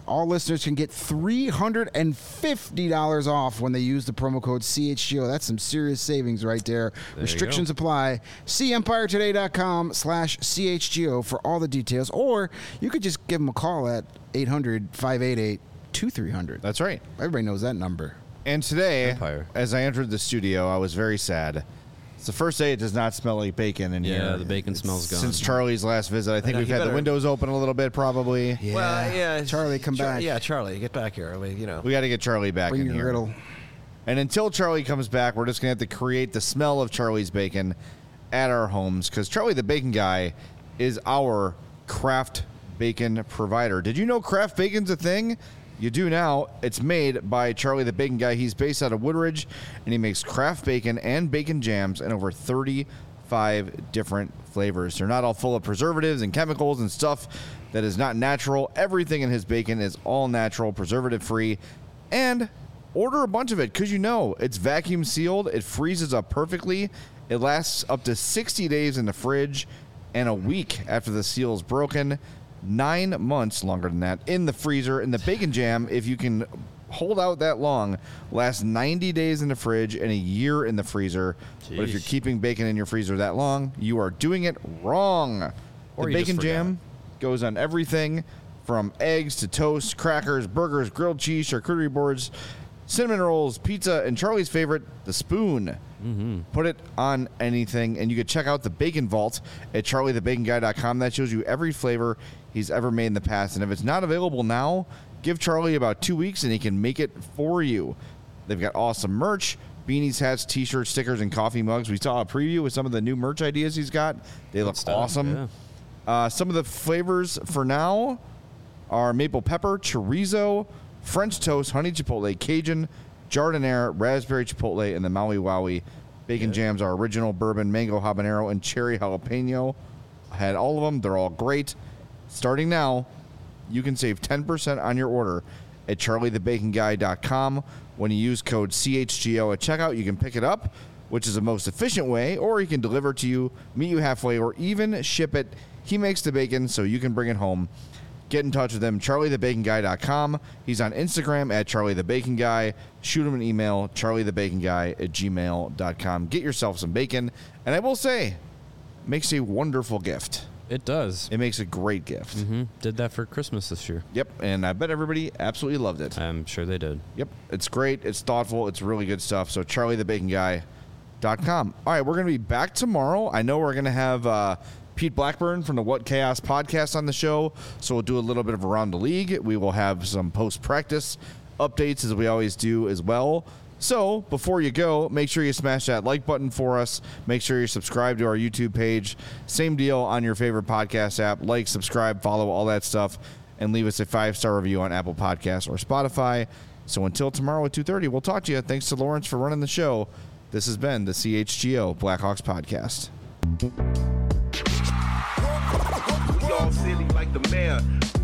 all listeners can get three hundred fifty dollars off when they use the promo code C H G O. That's some serious savings right there. There Restrictions apply. See empire today dot com slash C H G O for all the details. Or you could just give them a call at eight hundred, five eight eight, two three zero zero. That's right. Everybody knows that number. And today, Empire. as I entered the studio, I was very sad. It's the first day it does not smell like bacon in Yeah, here. the bacon smells gone. Since Charlie's last visit, I think know, we've you had the better- windows open a little bit, probably. Yeah. Well, yeah. Charlie, come Char- back. Yeah, Charlie, get back here. I mean, you know. We got to get Charlie back Bring in your here. griddle. And until Charlie comes back, we're just going to have to create the smell of Charlie's bacon at our homes because Charlie the Bacon Guy is our craft bacon provider. Did you know craft bacon's a thing? You do now. It's made by Charlie the Bacon Guy. He's based out of Woodridge, and he makes craft bacon and bacon jams in over thirty-five different flavors. They're not all full of preservatives and chemicals and stuff that is not natural. Everything in his bacon is all natural, preservative-free, and order a bunch of it because you know it's vacuum sealed. It freezes up perfectly. It lasts up to sixty days in the fridge and a week after the seal is broken. Nine months longer than that in the freezer. And the bacon jam, if you can hold out that long, lasts ninety days in the fridge and a year in the freezer. But if you're Jeez. keeping bacon in your freezer that long, you are doing it wrong. Or the you just bacon forgot. jam goes on everything from eggs to toast, crackers, burgers, grilled cheese, charcuterie boards, cinnamon rolls, pizza, and Charlie's favorite, the spoon. Mm-hmm. Put it on anything, and you can check out the Bacon Vault at charlie the bacon guy dot com. That shows you every flavor he's ever made in the past. And if it's not available now, give Charlie about two weeks, and he can make it for you. They've got awesome merch, beanies, hats, T-shirts, stickers, and coffee mugs. We saw a preview with some of the new merch ideas he's got. They look stuff, awesome. yeah. Uh, some of the flavors for now are maple pepper, chorizo, French toast, honey chipotle, Cajun, jardiniere, raspberry chipotle, and the Maui Wowie. Bacon jams are original bourbon, mango habanero, and cherry jalapeno. I had all of them. They're all great. Starting now, you can save ten percent on your order at charlie the bacon guy dot com. When you use code C H G O at checkout, you can pick it up, which is the most efficient way, or he can deliver it to you, meet you halfway, or even ship it. He makes the bacon so you can bring it home. Get in touch with him, charlie the bacon guy dot com. He's on Instagram at charlie the bacon guy. Shoot him an email, charlie the bacon guy at gmail dot com. Get yourself some bacon. And I will say, makes a wonderful gift. It does. It makes a great gift. Mm-hmm. Did that for Christmas this year. Yep, and I bet everybody absolutely loved it. I'm sure they did. Yep, it's great. It's thoughtful. It's really good stuff. So charlie the bacon guy dot com. All right, we're going to be back tomorrow. I know we're going to have uh, Pete Blackburn from the What Chaos podcast on the show, so we'll do a little bit of Around the League. We will have some post-practice updates, as we always do as well. So before you go, make sure you smash that like button for us. Make sure you subscribe to our YouTube page. Same deal on your favorite podcast app. Like, subscribe, follow, all that stuff, and leave us a five-star review on Apple Podcasts or Spotify. So until tomorrow at two thirty, we'll talk to you. Thanks to Lawrence for running the show. This has been the C H G O Blackhawks Podcast. We all silly like the mayor.